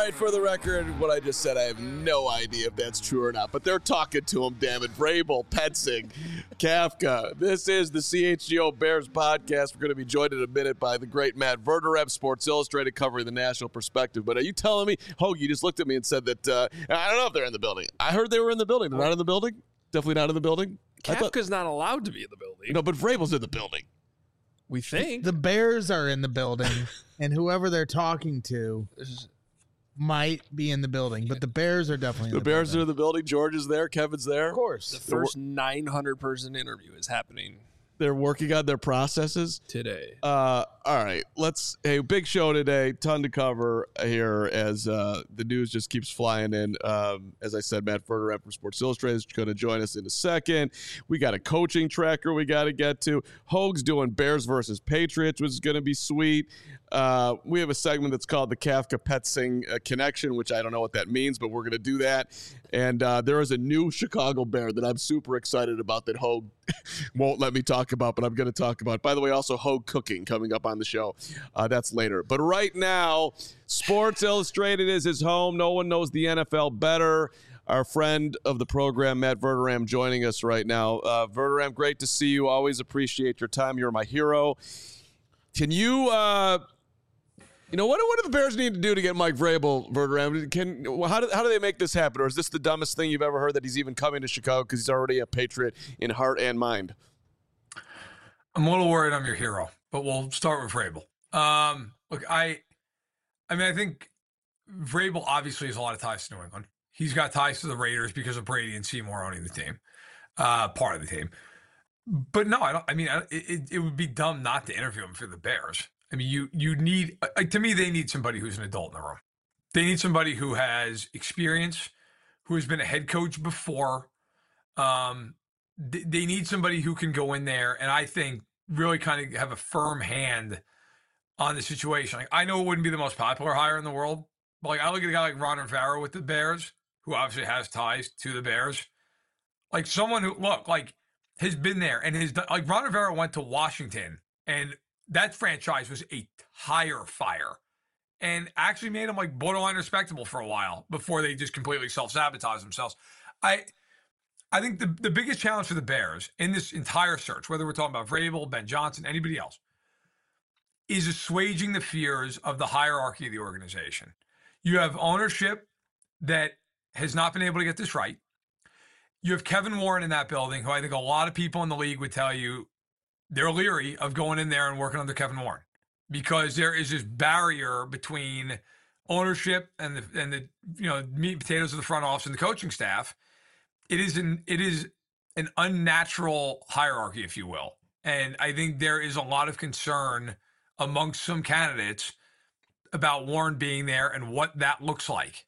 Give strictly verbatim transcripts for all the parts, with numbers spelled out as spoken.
right, for the record, what I just said, I have no idea if that's true or not, but they're talking to him, damn it. Vrabel, Petzing, Kafka. This is the C H G O Bears podcast. We're going to be joined in a minute by the great Matt Verderame, Sports Illustrated, covering the national perspective. But are you telling me, Hogue, you just looked at me and said that, uh, I don't know if they're in the building. I heard they were in the building. They're not in the building? Definitely not in the building? Kafka's not allowed to be in the building. No, but Vrabel's in the building. We think. The Bears are in the building, and whoever they're talking to might be in the building, but the Bears are definitely in the, the Bears building. are in the building. George is there. Kevin's there. Of course. The first nine hundred person interview is happening They're working on their processes today. Uh, all right, let's. Hey, big show today. Ton to cover here as uh, the news just keeps flying in. Um, as I said, Matt Verderame from Sports Illustrated is going to join us in a second. We got a coaching tracker we got to get to. Hogue's doing Bears versus Patriots, which is going to be sweet. Uh, we have a segment that's called the Kafka Petzing uh, Connection, which I don't know what that means, but we're going to do that. And uh, there is a new Chicago Bear that I'm super excited about that Hogue won't let me talk about, but I'm going to talk about. By the way, also Hogue cooking coming up on the show. Uh, that's later. But right now, Sports Illustrated is his home. No one knows the N F L better. Our friend of the program, Matt Verderame, joining us right now. Uh, Verderame, great to see you. Always appreciate your time. You're my hero. Can you... Uh, You know, what, what do the Bears need to do to get Mike Vrabel, Verderame? Can how do, how do they make this happen? Or is this the dumbest thing you've ever heard, that he's even coming to Chicago because he's already a Patriot in heart and mind? I'm a little worried I'm your hero, but we'll start with Vrabel. Um, look, I I mean, I think Vrabel obviously has a lot of ties to New England. He's got ties to the Raiders because of Brady and Seymour owning the team, uh, part of the team. But no, I don't. I mean, it, it would be dumb not to interview him for the Bears. I mean, you you need, like, to me, they need somebody who's an adult in the room. They need somebody who has experience, who has been a head coach before. Um, they, they need somebody who can go in there and I think really kind of have a firm hand on the situation. Like, I know it wouldn't be the most popular hire in the world, but like I look at a guy like Ron Rivera with the Bears, who obviously has ties to the Bears. Like someone who, look, like has been there and has done, like Ron Rivera went to Washington and that franchise was a tire fire and actually made them like borderline respectable for a while before they just completely self-sabotage themselves. I I think the, the biggest challenge for the Bears in this entire search, whether we're talking about Vrabel, Ben Johnson, anybody else, is assuaging the fears of the hierarchy of the organization. You have ownership that has not been able to get this right. You have Kevin Warren in that building, who I think a lot of people in the league would tell you they're leery of going in there and working under Kevin Warren because there is this barrier between ownership and the and the you know meat and potatoes of the front office and the coaching staff. It is an it is an unnatural hierarchy, if you will, and I think there is a lot of concern amongst some candidates about Warren being there and what that looks like.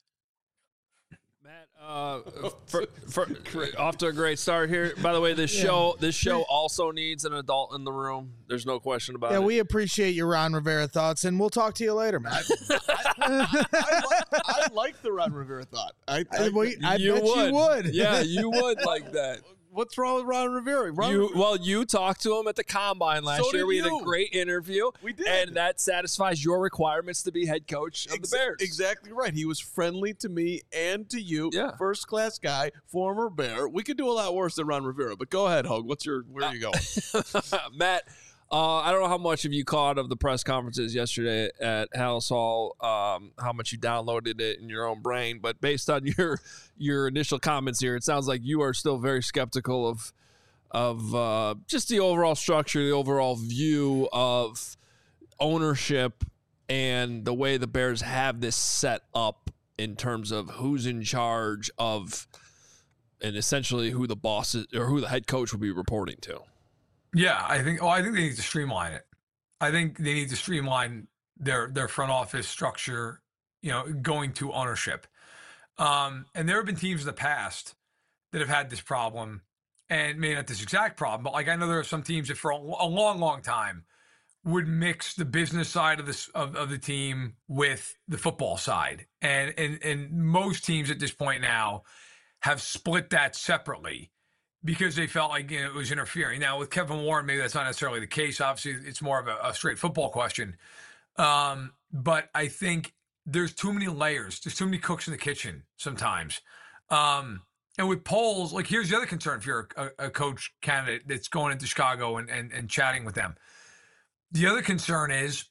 Matt, uh, for, for, off to a great start here. By the way, this yeah. show this show also needs an adult in the room. There's no question about yeah, it. Yeah, we appreciate your Ron Rivera thoughts, and we'll talk to you later, Matt. I, I, I, like, I like the Ron Rivera thought. I, I, I, I you bet would. you would. Yeah, you would like that. What's wrong with Ron Rivera? Ron you, Rivera? Well, you talked to him at the Combine last So year. did We had you. a great interview. We did. And that satisfies your requirements to be head coach of Ex- the Bears. Exactly right. He was friendly to me and to you. Yeah. First class guy, former Bear. We could do a lot worse than Ron Rivera, but go ahead, Hogue. What's your, where are you going? Matt, uh, I don't know how much of you caught of the press conferences yesterday at Hallis Hall, um, how much you downloaded it in your own brain, but based on your your initial comments here, it sounds like you are still very skeptical of of uh, just the overall structure, the overall view of ownership and the way the Bears have this set up in terms of who's in charge of and essentially who the boss is, or who the head coach will be reporting to. Yeah, I think. Oh, I think they need to streamline it. I think they need to streamline their their front office structure. You know, going to ownership. Um, and there have been teams in the past that have had this problem, and maybe not this exact problem, but like I know there are some teams that for a, a long, long time would mix the business side of this of, of the team with the football side, and and and most teams at this point now have split that separately, because they felt like, you know, it was interfering. Now, with Kevin Warren, maybe that's not necessarily the case. Obviously, it's more of a, a straight football question. Um, but I think there's too many layers. There's too many cooks in the kitchen sometimes. Um, and with polls, like here's the other concern if you're a, a coach candidate that's going into Chicago and, and, and chatting with them. The other concern is,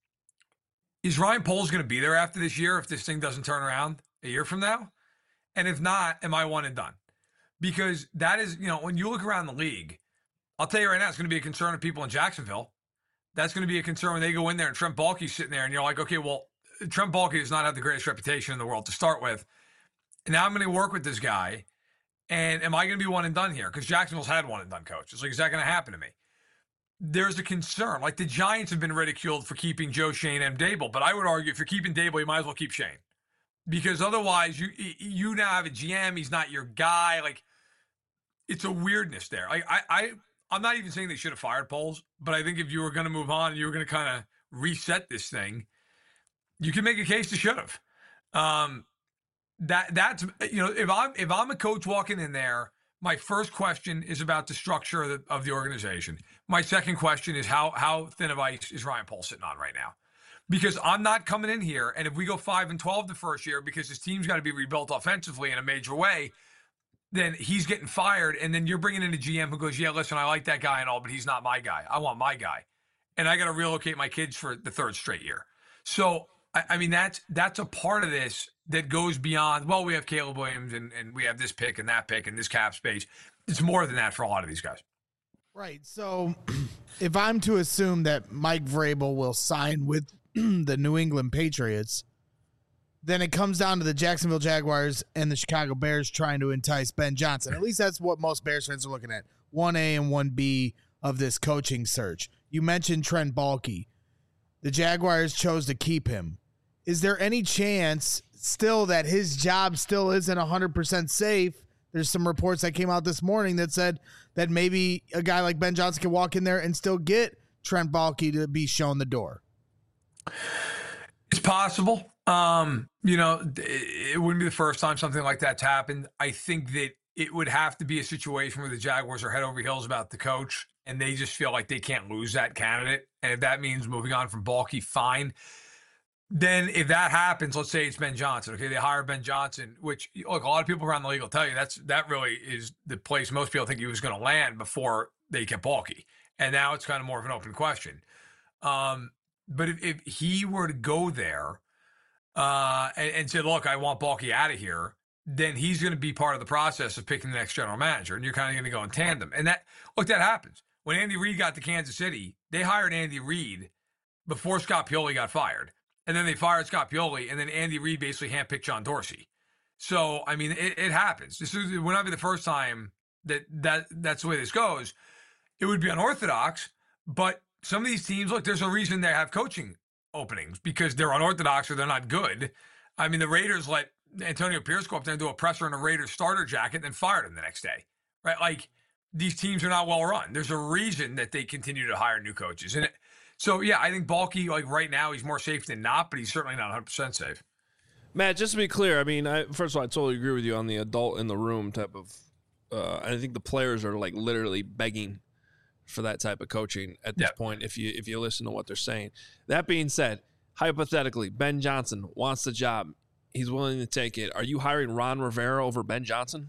is Ryan Poles going to be there after this year if this thing doesn't turn around a year from now? And if not, am I one and done? Because that is, you know, when you look around the league, I'll tell you right now, it's going to be a concern of people in Jacksonville. That's going to be a concern when they go in there and Trent Baalke's sitting there and you're like, okay, well, Trent Baalke does not have the greatest reputation in the world to start with. And now I'm going to work with this guy. And am I going to be one and done here? Because Jacksonville's had one and done coach. It's like, is that going to happen to me? There's a concern. Like the Giants have been ridiculed for keeping Joe Schoen and Dable. But I would argue if you're keeping Dable, you might as well keep Schoen. Because otherwise, you you now have a G M. He's not your guy. Like, it's a weirdness there. I, I, I, I'm not even saying they should have fired Poles. But I think if you were going to move on and you were going to kind of reset this thing, you can make a case to should have. Um, that that's you know if I'm if I'm a coach walking in there, my first question is about the structure of the, of the organization. My second question is how how thin of ice is Ryan Poles sitting on right now? Because I'm not coming in here, and if we go five and twelve the first year because his team's got to be rebuilt offensively in a major way, then he's getting fired, and then you're bringing in a G M who goes, yeah, listen, I like that guy and all, but he's not my guy. I want my guy, and I got to relocate my kids for the third straight year. So. I mean, that's that's a part of this that goes beyond, well, we have Caleb Williams and, and we have this pick and that pick and this cap space. It's more than that for a lot of these guys. Right. So if I'm to assume that Mike Vrabel will sign with the New England Patriots, then it comes down to the Jacksonville Jaguars and the Chicago Bears trying to entice Ben Johnson. At least that's what most Bears fans are looking at, one A and one B of this coaching search. You mentioned Trent Baalke. The Jaguars chose to keep him. Is there any chance still that his job still isn't one hundred percent safe? There's some reports that came out this morning that said that maybe a guy like Ben Johnson can walk in there and still get Trent Baalke to be shown the door. It's possible. Um, you know, it wouldn't be the first time something like that's happened. I think that it would have to be a situation where the Jaguars are head over heels about the coach and they just feel like they can't lose that candidate. And if that means moving on from Baalke, fine. Then if that happens, let's say it's Ben Johnson. Okay, they hire Ben Johnson, which look, a lot of people around the league will tell you that's that really is the place most people think he was going to land before they kept Baalke. And now it's kind of more of an open question. Um, but if, if he were to go there uh, and, and say, look, I want Baalke out of here, then he's going to be part of the process of picking the next general manager. And you're kind of going to go in tandem. And that, look, that happens. When Andy Reid got to Kansas City, they hired Andy Reid before Scott Pioli got fired. And then they fired Scott Pioli, and then Andy Reid basically handpicked John Dorsey. So, I mean, it, it happens. This is, it would not be the first time that, that that's the way this goes. It would be unorthodox, but some of these teams, look, there's a reason they have coaching openings because they're unorthodox or they're not good. I mean, the Raiders let Antonio Pierce go up there and do a presser in a Raiders starter jacket and then fired him the next day, right? Like, these teams are not well run. There's a reason that they continue to hire new coaches. And it, So, yeah, I think Baalke, like right now, he's more safe than not, but he's certainly not one hundred percent safe. Matt, just to be clear, I mean, I, first of all, I totally agree with you on the adult in the room type of uh, – I think the players are, like, literally begging for that type of coaching at this yep. point if you if you listen to what they're saying. That being said, hypothetically, Ben Johnson wants the job. He's willing to take it. Are you hiring Ron Rivera over Ben Johnson?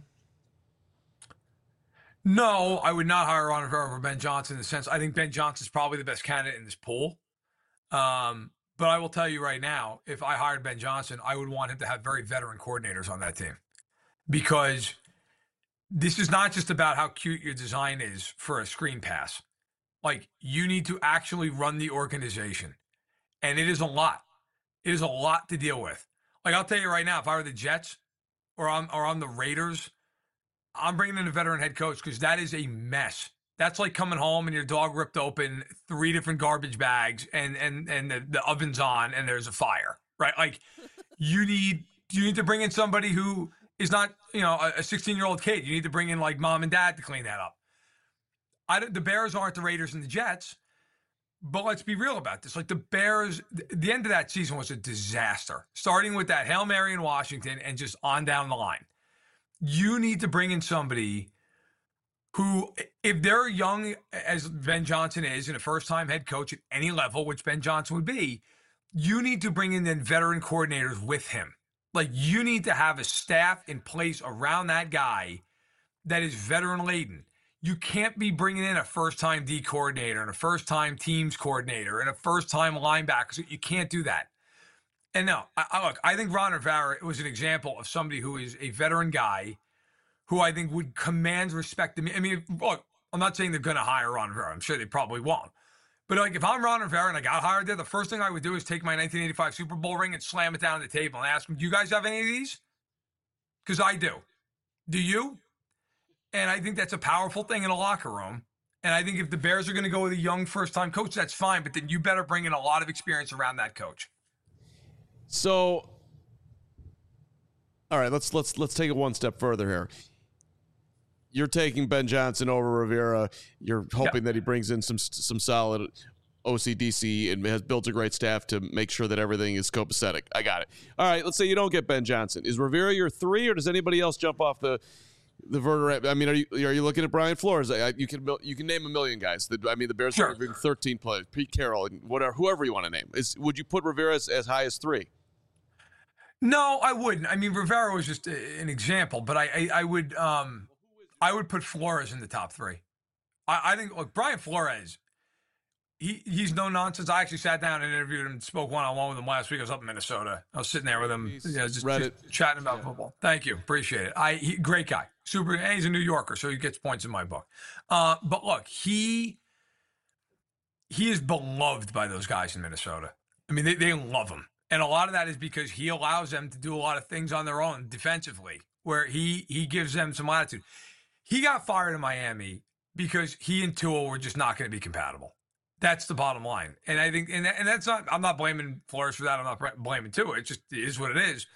No, I would not hire Ron Rivera over Ben Johnson in the sense I think Ben Johnson's probably the best candidate in this pool. Um, but I will tell you right now, if I hired Ben Johnson, I would want him to have very veteran coordinators on that team because this is not just about how cute your design is for a screen pass. Like, you need to actually run the organization, and it is a lot. It is a lot to deal with. Like, I'll tell you right now, if I were the Jets or I'm, or I'm the Raiders, I'm bringing in a veteran head coach because that is a mess. That's like coming home and your dog ripped open three different garbage bags and and and the, the oven's on and there's a fire, right? Like you need you need to bring in somebody who is not, you know, a sixteen-year-old kid. You need to bring in like mom and dad to clean that up. I the Bears aren't the Raiders and the Jets, but let's be real about this. Like the Bears, the end of that season was a disaster, starting with that Hail Mary in Washington and just on down the line. You need to bring in somebody who, if they're young as Ben Johnson is and a first-time head coach at any level, which Ben Johnson would be, you need to bring in then veteran coordinators with him. Like, you need to have a staff in place around that guy that is veteran laden. You can't be bringing in a first-time D coordinator and a first-time teams coordinator and a first-time linebacker. You can't do that. And no, I, I, look, I think Ron Rivera was an example of somebody who is a veteran guy who I think would command respect to me. I mean, look, I'm not saying they're going to hire Ron Rivera. I'm sure they probably won't. But like, if I'm Ron Rivera and I got hired there, the first thing I would do is take my nineteen eighty-five Super Bowl ring and slam it down on the table and ask them, do you guys have any of these? Because I do. Do you? And I think that's a powerful thing in a locker room. And I think if the Bears are going to go with a young first-time coach, that's fine. But then you better bring in a lot of experience around that coach. So, all right, let's let's let's take it one step further here. You're taking Ben Johnson over Rivera. You're hoping yeah. that he brings in some some solid O C D C and has built a great staff to make sure that everything is copacetic. I got it. All right, let's say you don't get Ben Johnson. Is Rivera your three, or does anybody else jump off the the vertebrae? I mean, are you are you looking at Brian Flores? I, you can you can name a million guys. The, I mean, the Bears sure. are having thirteen players. Pete Carroll, and whatever, whoever you want to name. Is would you put Rivera as, as high as three? No, I wouldn't. I mean, Rivera was just an example, but I I, I would um I would put Flores in the top three. I, I think look, Brian Flores. He he's no nonsense. I actually sat down and interviewed him, spoke one on one with him last week. I was up in Minnesota. I was sitting there with him, you know, just, just chatting about yeah. football. Thank you, appreciate it. I he, great guy, super. And he's a New Yorker, so he gets points in my book. Uh, but look, he he is beloved by those guys in Minnesota. I mean, they they love him, and a lot of that is because he allows them to do a lot of things on their own defensively, where he he gives them some latitude. He got fired in Miami because he and Tua were just not going to be compatible. That's the bottom line. And I think, and, and that's not, I'm not blaming Flores for that. I'm not blaming Tua. It just is what it is.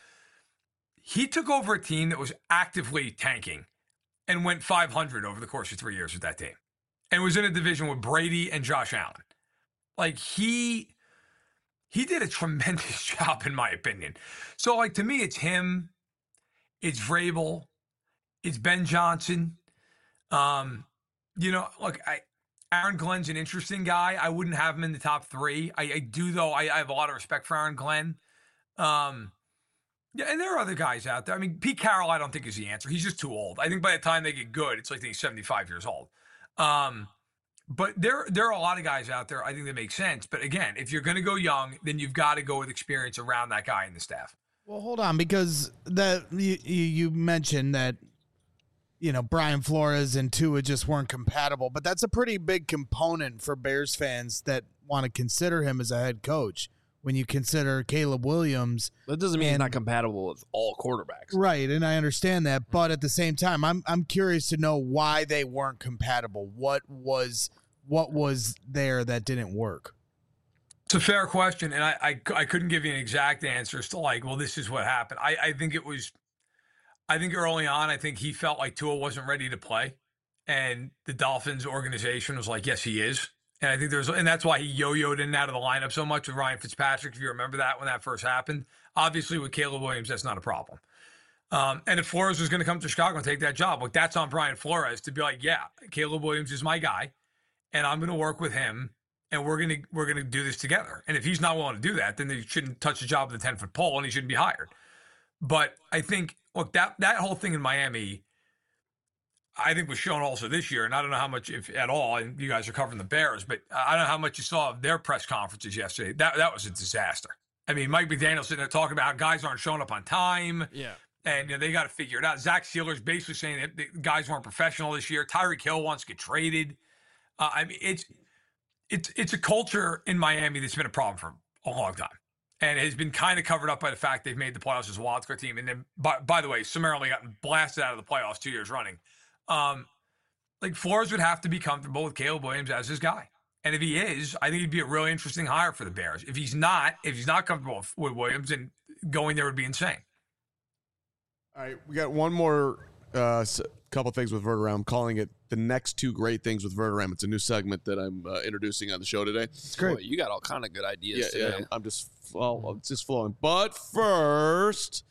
He took over a team that was actively tanking and went five hundred over the course of three years with that team and was in a division with Brady and Josh Allen. Like he, he did a tremendous job in my opinion. So like, to me, it's him, it's Vrabel, it's Ben Johnson. Um, you know, look, I, Aaron Glenn's an interesting guy. I wouldn't have him in the top three. I, I do, though. I, I have a lot of respect for Aaron Glenn. Um, yeah, and there are other guys out there. I mean, Pete Carroll, I don't think is the answer. He's just too old. I think by the time they get good, it's like he's seventy-five years old. Um, but there, there are a lot of guys out there. I think that makes sense. But again, if you're going to go young, then you've got to go with experience around that guy in the staff. Well, hold on, because that you, you mentioned that, you know, Brian Flores and Tua just weren't compatible, but that's a pretty big component for Bears fans that want to consider him as a head coach. When you consider Caleb Williams, that doesn't mean and, he's not compatible with all quarterbacks, right? And I understand that, but at the same time, I'm I'm curious to know why they weren't compatible. What was what was there that didn't work? It's a fair question, and I I, I couldn't give you an exact answer as to like, well, this is what happened. I, I think it was. I think early on, I think he felt like Tua wasn't ready to play, and the Dolphins organization was like, "Yes, he is." And I think there's, and that's why he yo-yoed in and out of the lineup so much with Ryan Fitzpatrick. If you remember that when that first happened, obviously with Caleb Williams, that's not a problem. Um, and if Flores was going to come to Chicago and take that job, like that's on Brian Flores to be like, "Yeah, Caleb Williams is my guy, and I'm going to work with him, and we're going to we're going to do this together." And if he's not willing to do that, then they shouldn't touch the job with a ten-foot pole, and he shouldn't be hired. But I think. Look, that, that whole thing in Miami, I think was shown also this year, and I don't know how much, if at all, and you guys are covering the Bears, but I don't know how much you saw of their press conferences yesterday. That that was a disaster. I mean, Mike McDaniel sitting there talking about how guys aren't showing up on time, yeah, and you know, they got to figure it out. Zach Sealer's basically saying that the guys weren't professional this year. Tyreek Hill wants to get traded. Uh, I mean, it's it's it's a culture in Miami that's been a problem for a long time. And it has been kind of covered up by the fact they've made the playoffs as a wildcard team. And then, by, by the way, summarily gotten blasted out of the playoffs two years running. Um, like, Flores would have to be comfortable with Caleb Williams as his guy. And if he is, I think he'd be a really interesting hire for the Bears. If he's not, if he's not comfortable with, with Williams, then going there would be insane. All right, we got one more uh, couple things with Verderame. I'm calling it the next two great things with Verderame. It's a new segment that I'm uh, introducing on the show today. It's great. Boy, you got all kind of good ideas yeah, today. Yeah, I'm just well, it's just flowing. But first,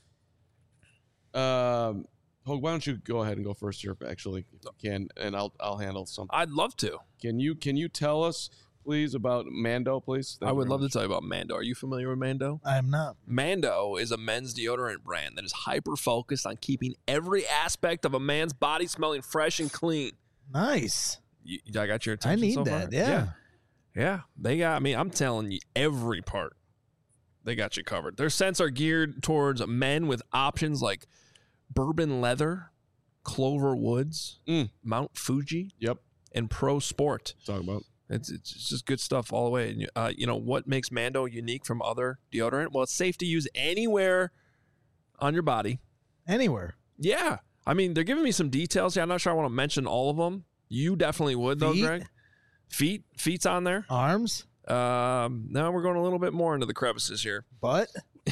um, Hogue, why don't you go ahead and go first here, actually, if you can, and I'll I'll handle something. I'd love to. Can you can you tell us please, about Mando, please? Thank I you would very love much. to tell you about Mando. Are you familiar with Mando? I am not. Mando is a men's deodorant brand that is hyper-focused on keeping every aspect of a man's body smelling fresh and clean. Nice. You, I got your I attention need so that. far? Yeah. yeah. Yeah. They got, I mean, I'm telling you, every part, they got you covered. Their scents are geared towards men with options like bourbon leather, Clover Woods, Mm. Mount Fuji, Yep. and Pro Sport. Talk about. It's, it's just good stuff all the way. And, uh, you know, what makes Mando unique from other deodorant? Well, it's safe to use anywhere on your body. Anywhere. Yeah. I mean, they're giving me some details here. I'm not sure I want to mention all of them. You definitely would, though, Feet? Greg. Feet? Feet's on there. Arms. Um, now we're going a little bit more into the crevices here. Butt.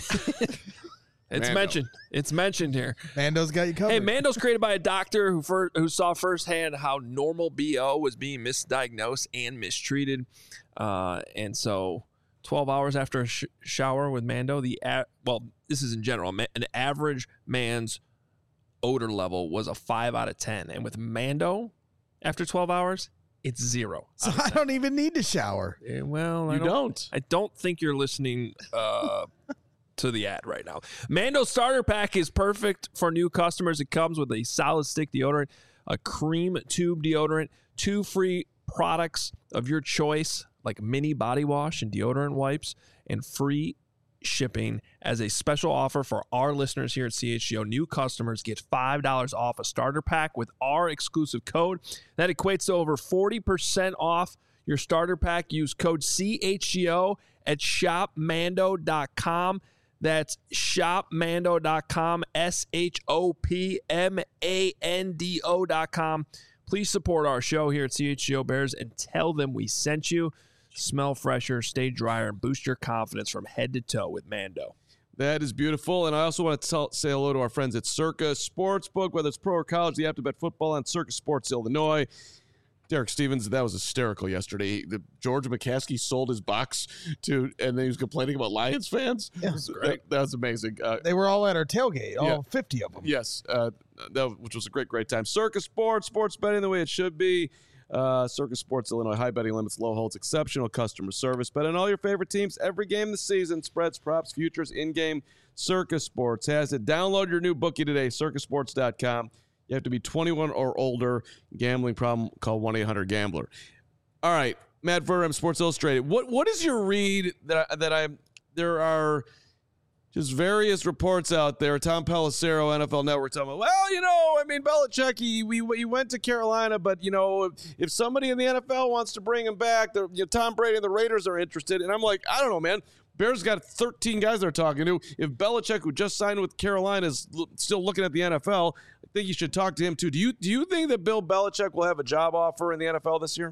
It's Mando. mentioned. It's mentioned here. Mando's got you covered. Hey, Mando's created by a doctor who fir- who saw firsthand how normal B O was being misdiagnosed and mistreated. Uh, and so twelve hours after a sh- shower with Mando, the a- well, this is in general, ma- an average man's odor level was a five out of ten. And with Mando, after twelve hours, it's zero. So I don't even need to shower. Eh, well, I You don't, don't. I don't think you're listening uh, to the ad right now. Mando Starter Pack is perfect for new customers. It comes with a solid stick deodorant, a cream tube deodorant, two free products of your choice, like mini body wash and deodorant wipes, and free shipping. As a special offer for our listeners here at C H G O, new customers get five dollars off a starter pack with our exclusive code. That equates to over forty percent off your starter pack. Use code C H G O at shop mando dot com. That's shop mando dot com, S H O P M A N D O dot com. Please support our show here at C H G O Bears and tell them we sent you. Smell fresher, stay drier, and boost your confidence from head to toe with Mando. That is beautiful. And I also want to tell, say hello to our friends at Circa Sportsbook, whether it's pro or college, the app to bet football on Circa Sports Illinois. Derek Stevens, that was hysterical yesterday. The George McCaskey sold his box to, and then he was complaining about Lions fans. Yeah, that, that was amazing. Uh, They were all at our tailgate, all Yeah. fifty of them. yes, uh, that, which was a great, great time. Circa Sports, sports betting the way it should be. Uh, Circa Sports Illinois, high betting limits, low holds, exceptional customer service. Bet on all your favorite teams every game this season. Spreads, props, futures, in-game. Circa Sports has it. Download your new bookie today, circa sports dot com. You have to be twenty-one or older. Gambling problem, call one eight hundred gambler. All right, Matt Verderame, Sports Illustrated. What What is your read that I, that I there are just various reports out there. Tom Pelissero, N F L Network, talking about, well, you know, I mean, Belichick, he, we, he went to Carolina, but, you know, if, if somebody in the N F L wants to bring him back, you know, Tom Brady and the Raiders are interested. And I'm like, I don't know, man. Bears got thirteen guys they're talking to. If Belichick, who just signed with Carolina, is l- still looking at the N F L, I think you should talk to him too. Do you do you think that Bill Belichick will have a job offer in the N F L this year?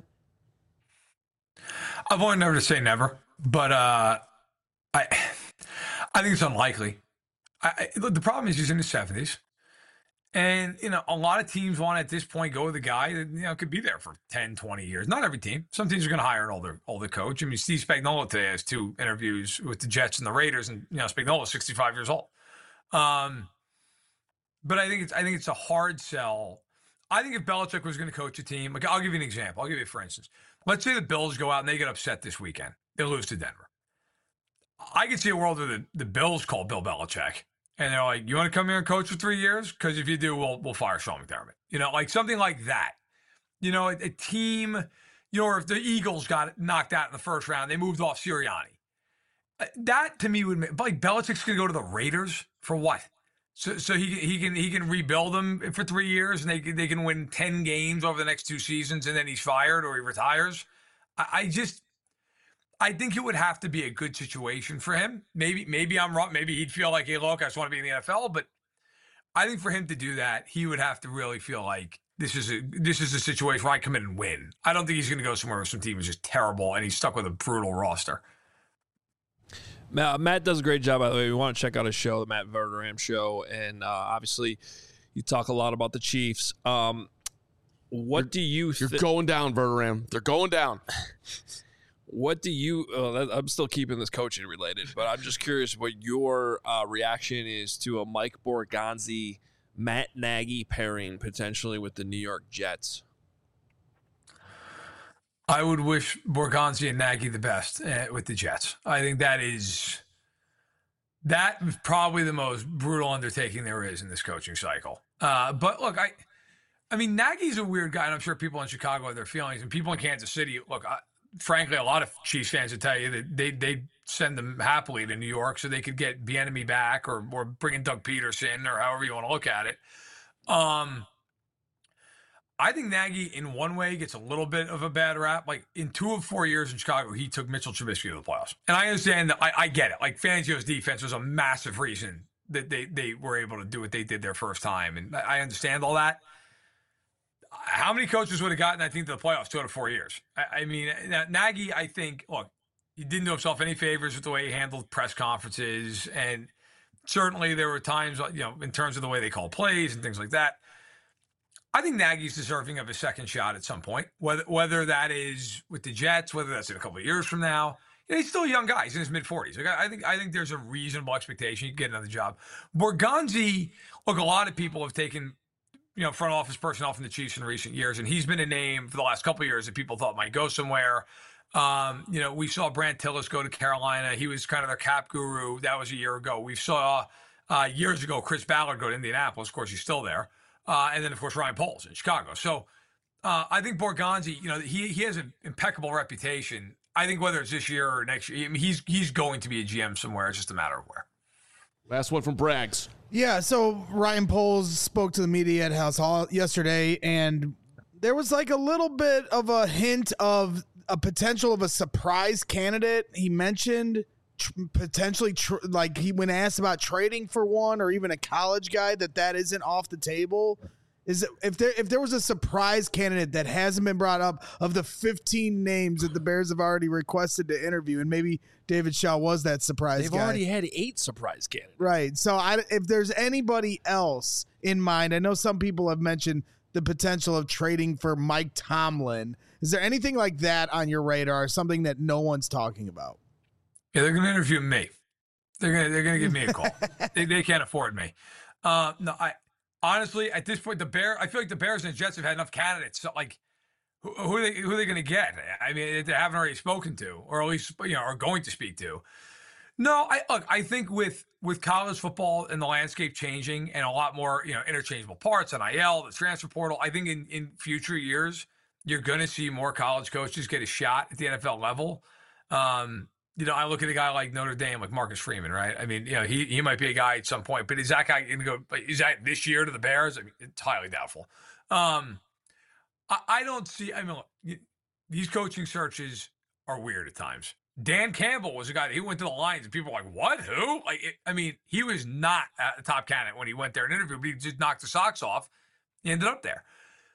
I've only never to say never, but uh, I I think it's unlikely. I, I, look, the problem is he's in his seventies. And, you know, a lot of teams want to, at this point, go with a guy that, you know, could be there for ten, twenty years. Not every team. Some teams are going to hire an older older coach. I mean, Steve Spagnuolo today has two interviews with the Jets and the Raiders, and, you know, Spagnuolo is sixty-five years old. Um, but I think it's I think it's a hard sell. I think if Belichick was going to coach a team, like, I'll give you an example. I'll give you, for instance, let's say the Bills go out and they get upset this weekend. They lose to Denver. I could see a world where the, the Bills call Bill Belichick. And they're like, you want to come here and coach for three years? Because if you do, we'll we'll fire Sean McDermott. You know, like something like that. You know, a, a team, you know, or if the Eagles got knocked out in the first round, they moved off Sirianni. That, to me, would make, like, Belichick's going to go to the Raiders for what? So so he, he can he can rebuild them for three years and they, they can win ten games over the next two seasons and then he's fired or he retires? I, I just... I think it would have to be a good situation for him. Maybe maybe I'm wrong. Maybe he'd feel like, hey, look, I just want to be in the N F L. But I think for him to do that, he would have to really feel like this is a this is a situation where I come in and win. I don't think he's going to go somewhere where some team is just terrible and he's stuck with a brutal roster. Matt, Matt does a great job, by the way. We want to check out his show, the Matt Verderame Show. And uh, obviously, you talk a lot about the Chiefs. Um, what You're, do you You're think? going down, Verderame. They're going down. What do you? Uh, I'm still keeping this coaching related, but I'm just curious what your uh, reaction is to a Mike Borgonzi, Matt Nagy pairing potentially with the New York Jets. Uh, I would wish Borgonzi and Nagy the best uh, with the Jets. I think that is that is probably the most brutal undertaking there is in this coaching cycle. Uh, but look, I, I mean, Nagy's a weird guy, and I'm sure people in Chicago have their feelings, and people in Kansas City. Look, I, frankly, a lot of Chiefs fans would tell you that they they send them happily to New York so they could get Bieniemy back, or or bring in Doug Peterson, or however you want to look at it. Um. I think Nagy, in one way, gets a little bit of a bad rap. Like, in two of four years in Chicago, he took Mitchell Trubisky to the playoffs. And I understand that. I, I get it. Like, Fangio's defense was a massive reason that they, they were able to do what they did their first time. And I understand all that. How many coaches would have gotten, I think, to the playoffs two out of four years? I, I mean, Nagy, I think, look, he didn't do himself any favors with the way he handled press conferences. And certainly there were times, you know, in terms of the way they call plays and things like that. I think Nagy's deserving of a second shot at some point, whether whether that is with the Jets, whether that's in a couple of years from now. You know, he's still a young guy. He's in his mid forties. Like, I think I think there's a reasonable expectation he can get another job. Borgonzi, look, a lot of people have taken, you know, front office personnel from the Chiefs in recent years, and he's been a name for the last couple of years that people thought might go somewhere. Um, you know, we saw Brant Tillis go to Carolina. He was kind of their cap guru. That was a year ago. We saw uh, years ago Chris Ballard go to Indianapolis. Of course, he's still there. Uh, and then, of course, Ryan Poles in Chicago. So uh, I think Borgonzi, you know, he he has an impeccable reputation. I think whether it's this year or next year, I mean, he's he's going to be a G M somewhere. It's just a matter of where. Last one from Braggs. Yeah, so Ryan Poles spoke to the media at House Hall yesterday, and there was like a little bit of a hint of a potential of a surprise candidate. He mentioned tr- potentially tr- like he when asked about trading for one or even a college guy, that that isn't off the table. Is it, if there if there was a surprise candidate that hasn't been brought up of the fifteen names that the Bears have already requested to interview, and maybe David Shaw was that surprise They've guy. already had eight surprise candidates. Right. So I, if there's anybody else in mind, I know some people have mentioned the potential of trading for Mike Tomlin. Is there anything like that on your radar, something that no one's talking about? Yeah, they're going to interview me. They're going to they're going to give me a call. they, they can't afford me. Uh, no, I honestly at this point the Bear. I feel like the Bears and the Jets have had enough candidates. So like, who, who are they who are they going to get? I mean, they haven't already spoken to, or at least you know, are going to speak to. No, I look. I think with with college football and the landscape changing and a lot more you know interchangeable parts, N I L, the transfer portal. I think in in future years you're going to see more college coaches get a shot at the N F L level. Um, You know, I look at a guy like Notre Dame, like Marcus Freeman, right? I mean, you know, he he might be a guy at some point, but is that guy going to go? Is that this year to the Bears? I mean, it's highly doubtful. Um, I, I don't see. I mean, look, these coaching searches are weird at times. Dan Campbell was a guy that he went to the Lions, and people were like, "What? Who?" Like, it, I mean, he was not a top candidate when he went there and interviewed, but he just knocked the socks off. He ended up there.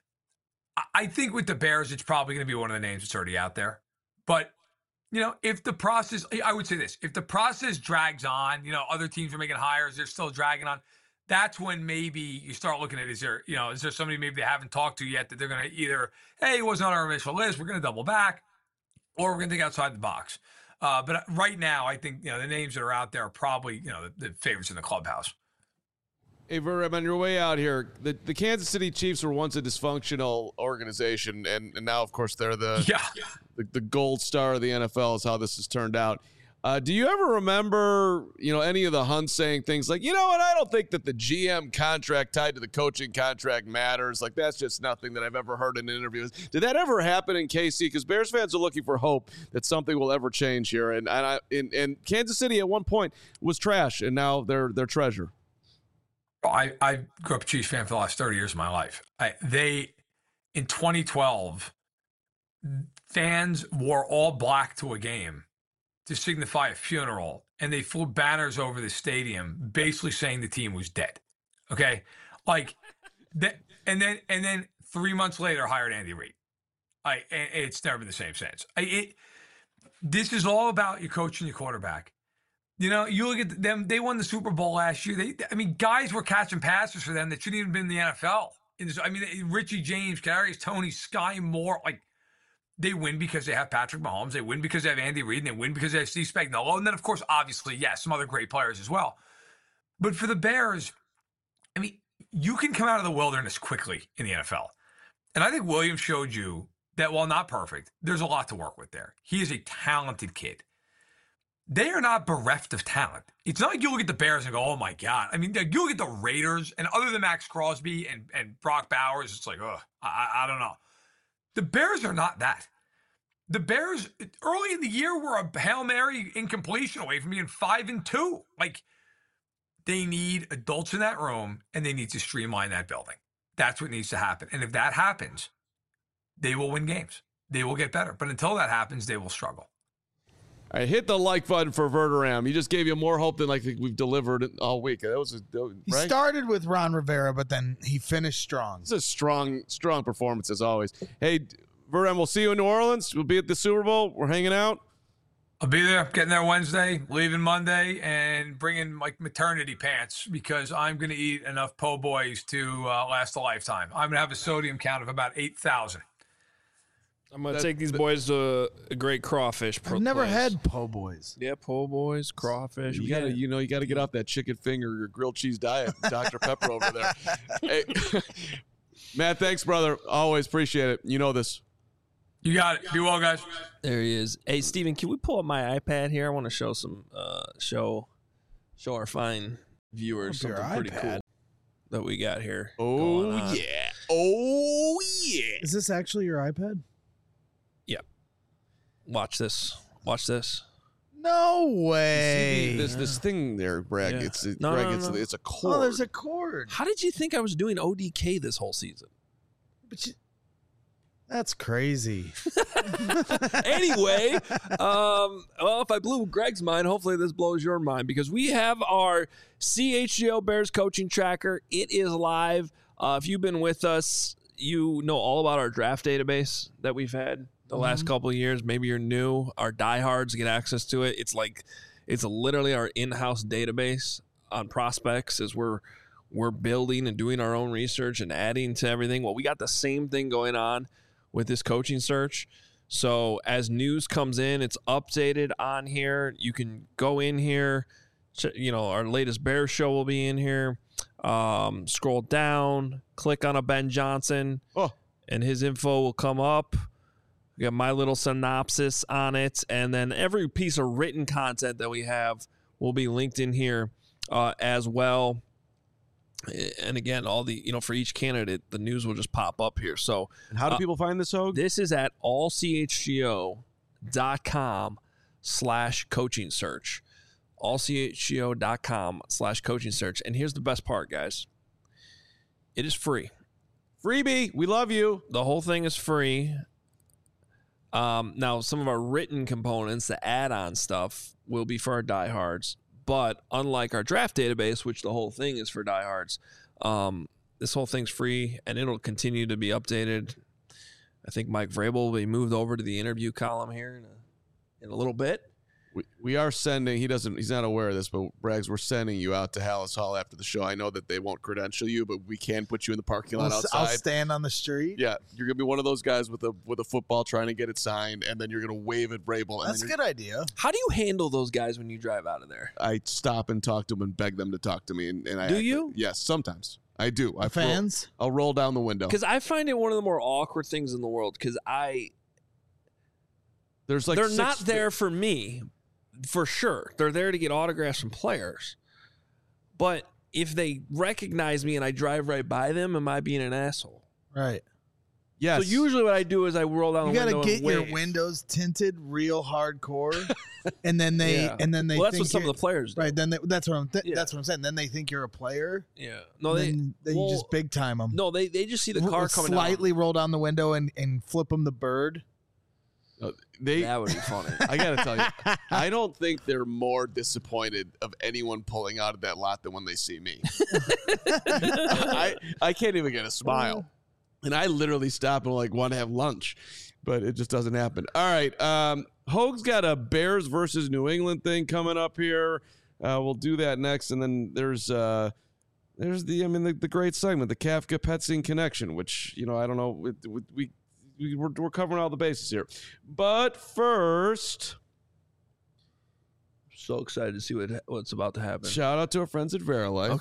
I, I think with the Bears, it's probably going to be one of the names that's already out there, but. You know, if the process, I would say this, if the process drags on, you know, other teams are making hires, they're still dragging on, that's when maybe you start looking at, is there, you know, is there somebody maybe they haven't talked to yet that they're going to either, hey, it wasn't on our initial list, we're going to double back, or we're going to think outside the box. Uh, but right now, I think, you know, the names that are out there are probably, you know, the, the favorites in the clubhouse. Hey, Verb, on your way out here, the, the Kansas City Chiefs were once a dysfunctional organization, and, and now, of course, they're the, yeah. the the gold star of the N F L is how this has turned out. Uh, do you ever remember, you know, any of the Hunts saying things like, you know what, I don't think that the G M contract tied to the coaching contract matters. Like, that's just nothing that I've ever heard in interviews. Did that ever happen in K C? Because Bears fans are looking for hope that something will ever change here. And and, I, and, and Kansas City at one point was trash, and now they're, they're treasure. I, I grew up a Chiefs fan for the last thirty years of my life. I, they, in twenty twelve, fans wore all black to a game to signify a funeral, and they flew banners over the stadium basically saying the team was dead. Okay? Like, that, and then and then three months later hired Andy Reid. I, and it's never been the same since. I, it, this is all about your coach and your quarterback. You know, you look at them, they won the Super Bowl last year. They, I mean, guys were catching passes for them that shouldn't even been in the N F L. In this, I mean, Richie James, Kadarius Toney, Sky Moore, like, they win because they have Patrick Mahomes. They win because they have Andy Reid, and they win because they have Steve Spagnuolo. And then, of course, obviously, yes, some other great players as well. But for the Bears, I mean, you can come out of the wilderness quickly in the N F L. And I think Williams showed you that while not perfect, there's a lot to work with there. He is a talented kid. They are not bereft of talent. It's not like you look at the Bears and go, oh my God. I mean, you look at the Raiders, and other than Max Crosby and, and Brock Bowers, it's like, ugh, I, I don't know. The Bears are not that. The Bears, early in the year, were a Hail Mary incompletion away from being five and two. Like, they need adults in that room, and they need to streamline that building. That's what needs to happen. And if that happens, they will win games. They will get better. But until that happens, they will struggle. All right, hit the like button for Verderame. He just gave you more hope than like we've delivered all week. That was a, that was, He right? started with Ron Rivera, but then he finished strong. It's a strong, strong performance as always. Hey, Verderame, we'll see you in New Orleans. We'll be at the Super Bowl. We're hanging out. I'll be there, getting there Wednesday, leaving Monday, and bringing like maternity pants because I'm going to eat enough po' boys to uh, last a lifetime. I'm going to have a sodium count of about eight thousand. I'm going to That- take these boys to a great crawfish. I've never place. had po' boys. Yeah, po' boys, crawfish. You We gotta, got- you know, you gotta get off that chicken finger or grilled cheese diet, Doctor Pepper over there. Hey, Matt, thanks, brother. Always appreciate it. You know this. You got it. Be well, guys. There he is. Hey, Steven, can we pull up my iPad here? I want to show some, uh, show, show our fine viewers Up your something pretty iPad. cool that we got here. Oh going on. yeah. Oh yeah. Is this actually your iPad? Watch this. Watch this. No See, way. this this thing there, Greg. Yeah. It's it, No, Greg. no, it's no. it's a cord. Oh, there's a cord. How did you think I was doing O D K this whole season? But you, that's crazy. Anyway, um, well, if I blew Greg's mind, hopefully this blows your mind because we have our C H G O Bears coaching tracker. It is live. Uh, if you've been with us, you know all about our draft database that we've had the Mm-hmm. last couple of years. Maybe you're new. Our diehards get access to it. It's like it's literally our in-house database on prospects as we're we're building and doing our own research and adding to everything. Well, we got the same thing going on with this coaching search. So as news comes in, it's updated on here. You can go in here. Ch- You know, our latest Bears show will be in here. Um, scroll down, click on a Ben Johnson, Oh. and his info will come up. We got my little synopsis on it, and then every piece of written content that we have will be linked in here uh, as well. And again, all the, you know, for each candidate, the news will just pop up here. So And how do uh, people find this, Hogue? this is at all c h g o dot com slash coaching search. all c h g o dot com slash coaching search. And here's the best part, guys. It is free. Freebie. We love you. The whole thing is free. Um, now, some of our written components, the add-on stuff, will be for our diehards. But unlike our draft database, which the whole thing is for diehards, um, this whole thing's free, and it'll continue to be updated. I think Mike Vrabel will be moved over to the interview column here in a, in a little bit. We, we are sending. He doesn't. He's not aware of this, but Braggs, we're sending you out to Hallis Hall after the show. I know that they won't credential you, but we can put you in the parking lot I'll, outside. I'll stand on the street. Yeah, you're gonna be one of those guys with a with a football trying to get it signed, and then you're gonna wave at Vrabel. And That's a then good idea. How do you handle those guys when you drive out of there? I stop and talk to them and beg them to talk to me. And, and I Do act- you? Yes, sometimes I do. I Fans? I'll roll down the window. Because I find it one of the more awkward things in the world. Because I, There's like they're six- not there for me, for sure. They're there to get autographs from players. But if they recognize me and I drive right by them, am I being an asshole? Right. Yes. So usually what I do is I roll down You the got to window get and your wave. windows tinted real hardcore, and then they Yeah. and then they Well, that's think what some of you're- the players do. right. Then they, that's what I'm th- Yeah. that's what I'm saying. Then they think you're a player. Yeah. No, and they then, then well, you just big time them. no, they they just see the car coming slightly roll down the window and and flip them the bird. Uh, they. down. That would be funny. I gotta tell you, I don't think they're more disappointed of anyone pulling out of that lot than when they see me. I I can't even get a smile, and I literally stop and like want to have lunch, but it just doesn't happen. All right, um, Hogue's got a Bears versus New England thing coming up here. Uh, we'll do that next, and then there's uh, there's the I mean the, the great segment, the Kafka Petsing connection, which you know I don't know we. we, we We- We're, we're covering all the bases here. But first, So excited to see what what's about to happen. shout out to our friends at Verilife. Okay.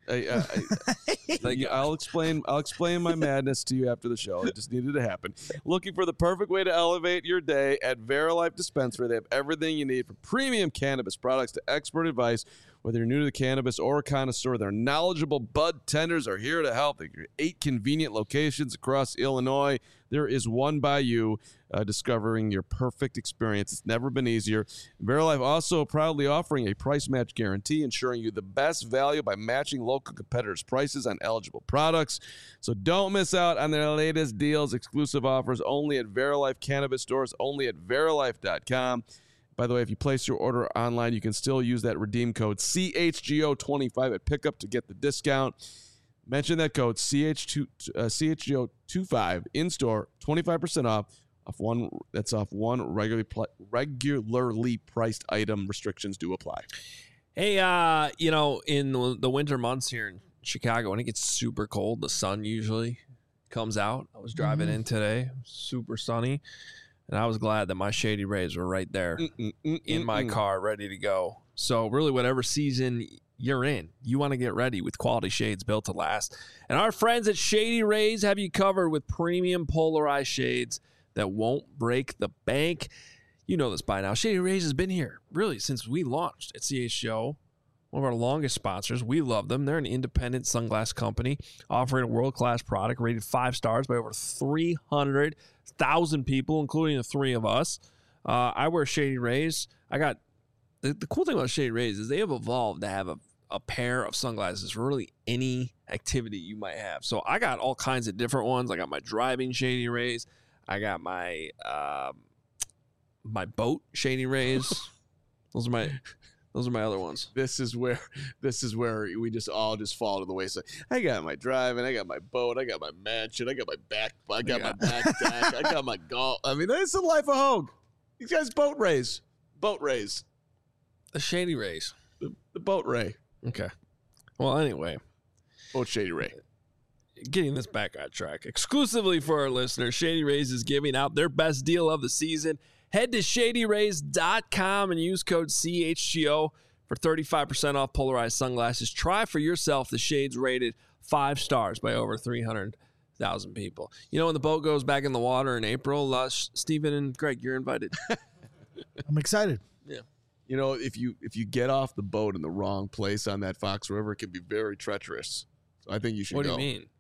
I, I, I, I'll explain. I'll explain my madness to you after the show. It just needed to happen. Looking for the perfect way to elevate your day at Verilife Dispensary. They have everything you need from premium cannabis products to expert advice. Whether you're new to the cannabis or a connoisseur, their knowledgeable bud tenders are here to help. They have eight convenient locations across Illinois. There is one by you, uh, discovering your perfect experience. It's never been easier. Verilife also proudly offering a price match guarantee, ensuring you the best value by matching local competitors' prices on eligible products. So don't miss out on their latest deals, exclusive offers only at Verilife Cannabis stores, only at verilife dot com. By the way, if you place your order online, you can still use that redeem code C H G O twenty-five at pickup to get the discount. Mention that code C H two, uh, C H G O twenty-five in store, twenty-five percent off. Off one that's off one regularly pl- regularly priced item. Restrictions do apply. Hey, uh, you know, in the, the winter months here in Chicago, when it gets super cold, the sun usually comes out. I was driving mm-hmm. in today, super sunny. And I was glad that my Shady Rays were right there mm, mm, in my mm. car, ready to go. So really, whatever season you're in, you want to get ready with quality shades built to last. And our friends at Shady Rays have you covered with premium polarized shades that won't break the bank. You know this by now. Shady Rays has been here, really, since we launched at C H G O. One of our longest sponsors. We love them. They're an independent sunglass company offering a world-class product rated five stars by over three hundred thousand people, including the three of us. Uh, I wear Shady Rays. I got the, the cool thing about Shady Rays is they have evolved to have a, a pair of sunglasses for really any activity you might have. So I got all kinds of different ones. I got my driving Shady Rays. I got my um, my boat Shady Rays. Those are my... Those are my other ones. This is where this is where we just all just fall to the wayside. I got my driving, I got my boat, I got my mansion, I got my back, I got yeah. my backpack, I got my golf. I mean, that's the life of Hogue. These guys boat rays, boat rays, the Shady Rays, the, the boat ray. Okay. Well, anyway, boat Shady Ray. Getting this back on track. Exclusively for our listeners, Shady Rays is giving out their best deal of the season. Head to shady rays dot com and use code C H G O for thirty-five percent off polarized sunglasses. Try for yourself the shades rated five stars by over three hundred thousand people. You know, when the boat goes back in the water in April, uh, Stephen and Greg, you're invited. I'm excited. Yeah. You know, if you if you get off the boat in the wrong place on that Fox River, it can be very treacherous. So I think you should what go. What do you mean?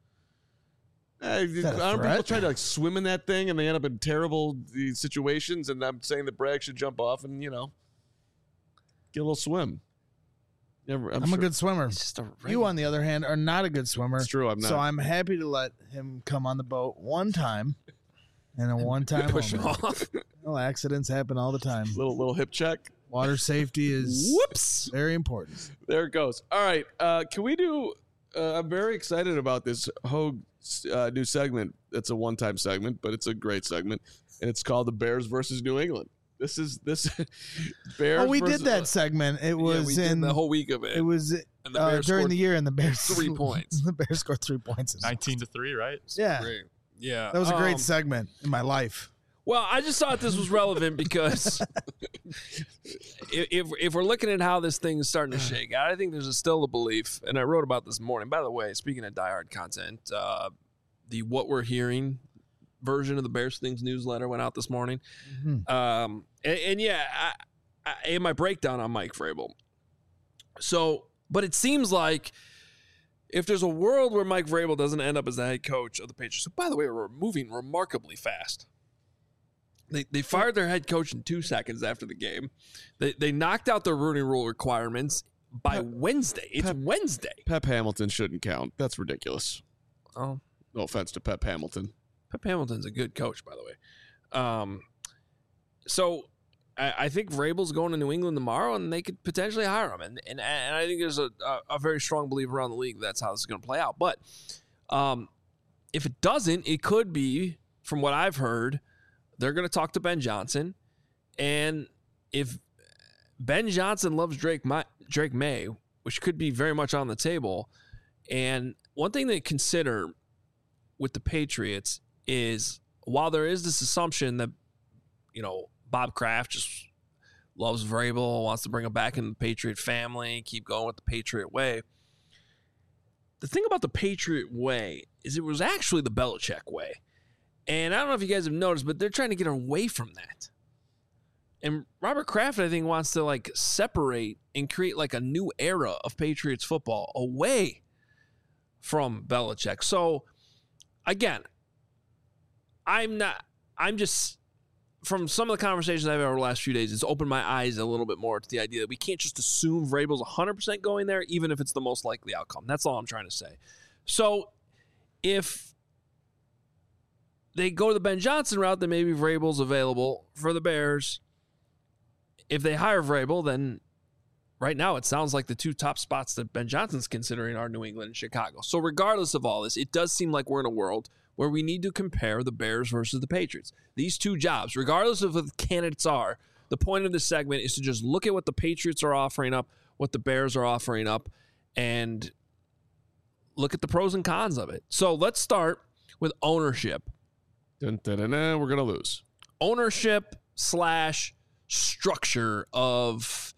Uh, aren't people try to like swim in that thing and they end up in terrible uh, situations? And I'm saying that Bragg should jump off and, you know, get a little swim. Never, I'm I'm sure. a good swimmer. You, on the other hand, are not a good swimmer. It's true. I'm not. So I'm happy to let him come on the boat one time and a one time push him off. Well, accidents happen all the time. Little little hip check. Water safety is whoops very important. There it goes. All right. Uh, can we do? Uh, I'm very excited about this Hogue uh, new segment. It's a one-time segment, but it's a great segment, and it's called the Bears versus New England. This is this Bears. Oh, we versus, did that segment. It was yeah, we in did the whole week of it. It was and the uh, during the year, and the Bears three points. The Bears scored three points. Nineteen to three, right? Yeah, great. Yeah. That was a great um, segment in my life. Well, I just thought this was relevant because if if we're looking at how this thing is starting to shake out, I think there's a, still a belief, and I wrote about this morning. By the way, speaking of diehard content, uh, the What We're Hearing version of the Bears Things newsletter went out this morning. Mm-hmm. Um, and, and yeah, I, I, in my breakdown on Mike Vrabel. So, but it seems like if there's a world where Mike Vrabel doesn't end up as the head coach of the Patriots, so by the way, we're moving remarkably fast. They they fired their head coach in two seconds after the game. They they knocked out the Rooney Rule requirements by Pep, Wednesday. It's Pep, Wednesday. Pep Hamilton shouldn't count. That's ridiculous. Oh, no offense to Pep Hamilton. Pep Hamilton's a good coach, by the way. Um, so I, I think Vrabel's going to New England tomorrow, and they could potentially hire him. And and, and I think there's a, a, a very strong belief around the league that's how this is going to play out. But um, if it doesn't, it could be, from what I've heard, they're going to talk to Ben Johnson, and if Ben Johnson loves Drake, My, Drake May, which could be very much on the table, and one thing to consider with the Patriots is while there is this assumption that, you know, Bob Kraft just loves Vrabel, wants to bring him back in the Patriot family, keep going with the Patriot way, the thing about the Patriot way is it was actually the Belichick way. And I don't know if you guys have noticed, but they're trying to get away from that. And Robert Kraft, I think, wants to like separate and create like a new era of Patriots football away from Belichick. So again, I'm not, I'm just, from some of the conversations I've had over the last few days, it's opened my eyes a little bit more to the idea that we can't just assume Vrabel's one hundred percent going there, even if it's the most likely outcome. That's all I'm trying to say. So if they go to the Ben Johnson route, then maybe Vrabel's available for the Bears. If they hire Vrabel, then right now it sounds like the two top spots that Ben Johnson's considering are New England and Chicago. So regardless of all this, it does seem like we're in a world where we need to compare the Bears versus the Patriots. These two jobs, regardless of what the candidates are, the point of this segment is to just look at what the Patriots are offering up, what the Bears are offering up, and look at the pros and cons of it. So let's start with ownership. Dun, dun, dun, dun, we're going to lose. Ownership slash structure of,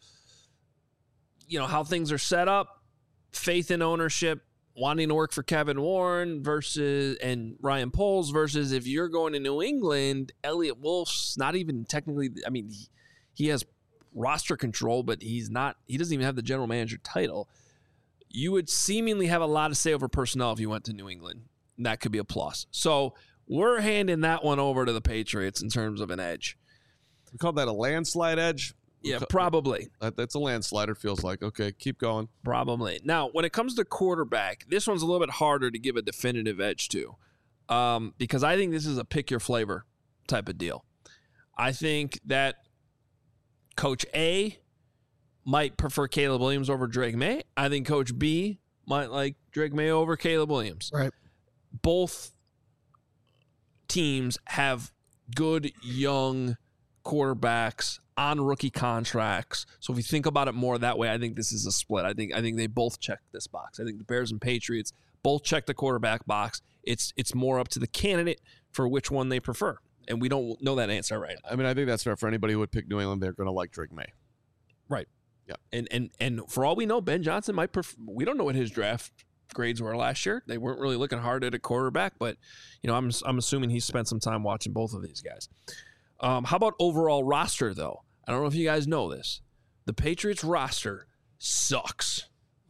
you know, how things are set up, faith in ownership, wanting to work for Kevin Warren versus and Ryan Poles versus if you're going to New England, Elliott Wolf's not even technically, I mean, he, he has roster control, but he's not, he doesn't even have the general manager title. You would seemingly have a lot to say over personnel if you went to New England. And that could be a plus. So we're handing that one over to the Patriots in terms of an edge. We call that a landslide edge. Yeah, probably. That, that's a landslider, feels like. Okay, keep going. Probably. Now, when it comes to quarterback, this one's a little bit harder to give a definitive edge to um, because I think this is a pick your flavor type of deal. I think that Coach A might prefer Caleb Williams over Drake May. I think Coach B might like Drake May over Caleb Williams. Right. Both teams have good young quarterbacks on rookie contracts. So if you think about it more that way, I think this is a split. I think I think they both check this box. I think the Bears and Patriots both check the quarterback box. It's it's more up to the candidate for which one they prefer. And we don't know that answer right now. I mean, I think that's fair for anybody who would pick New England. They're going to like Drake May. Right. Yeah. And and and for all we know, Ben Johnson might prefer, we don't know what his draft grades were last year. They weren't really looking hard at a quarterback, but you know, I'm I'm assuming he spent some time watching both of these guys. Um, how about overall roster, though? I don't know if you guys know this. The Patriots roster sucks.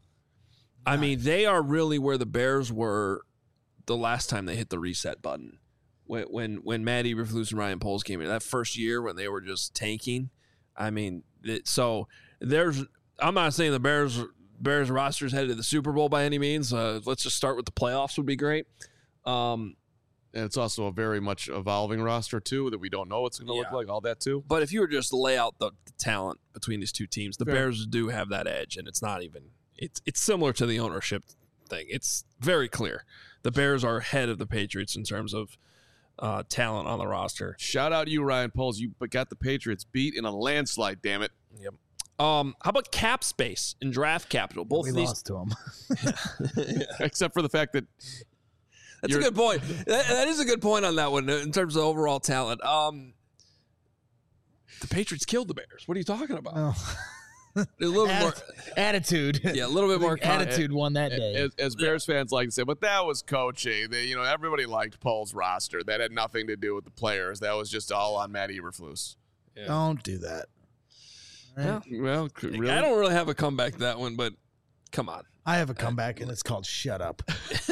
I mean, they are really where the Bears were the last time they hit the reset button. When when, when Matt Eberflus and Ryan Poles came in, that first year when they were just tanking. I mean, it, so there's. I'm not saying the Bears Bears roster is headed to the Super Bowl by any means. Uh, let's just start with the playoffs would be great. Um, And it's also a very much evolving roster, too, that we don't know what's going to Yeah. look like, all that, too. But if you were just to lay out the, the talent between these two teams, the Fair. Bears do have that edge, and it's not even it's it's similar to the ownership thing. It's very clear. The Bears are ahead of the Patriots in terms of uh, talent on the roster. Shout out to you, Ryan Poles. You got the Patriots beat in a landslide, damn it. Yep. Um, how about cap space and draft capital? Both We of these, lost to him. Except for the fact that that's You're- a good point. That, that is a good point on that one in terms of overall talent. Um, the Patriots killed the Bears. What are you talking about? Oh. A little bit more, Atti- attitude. yeah, a little bit more con- attitude won that day. as, as Bears fans like to say, but that was coaching. They, you know, everybody liked Poles' roster. That had nothing to do with the players. That was just all on Matt Eberflus. Yeah. Don't do that. Right? Yeah. Well, c- really? I don't really have a comeback to that one, but come on. I have a comeback, and it's called "Shut Up."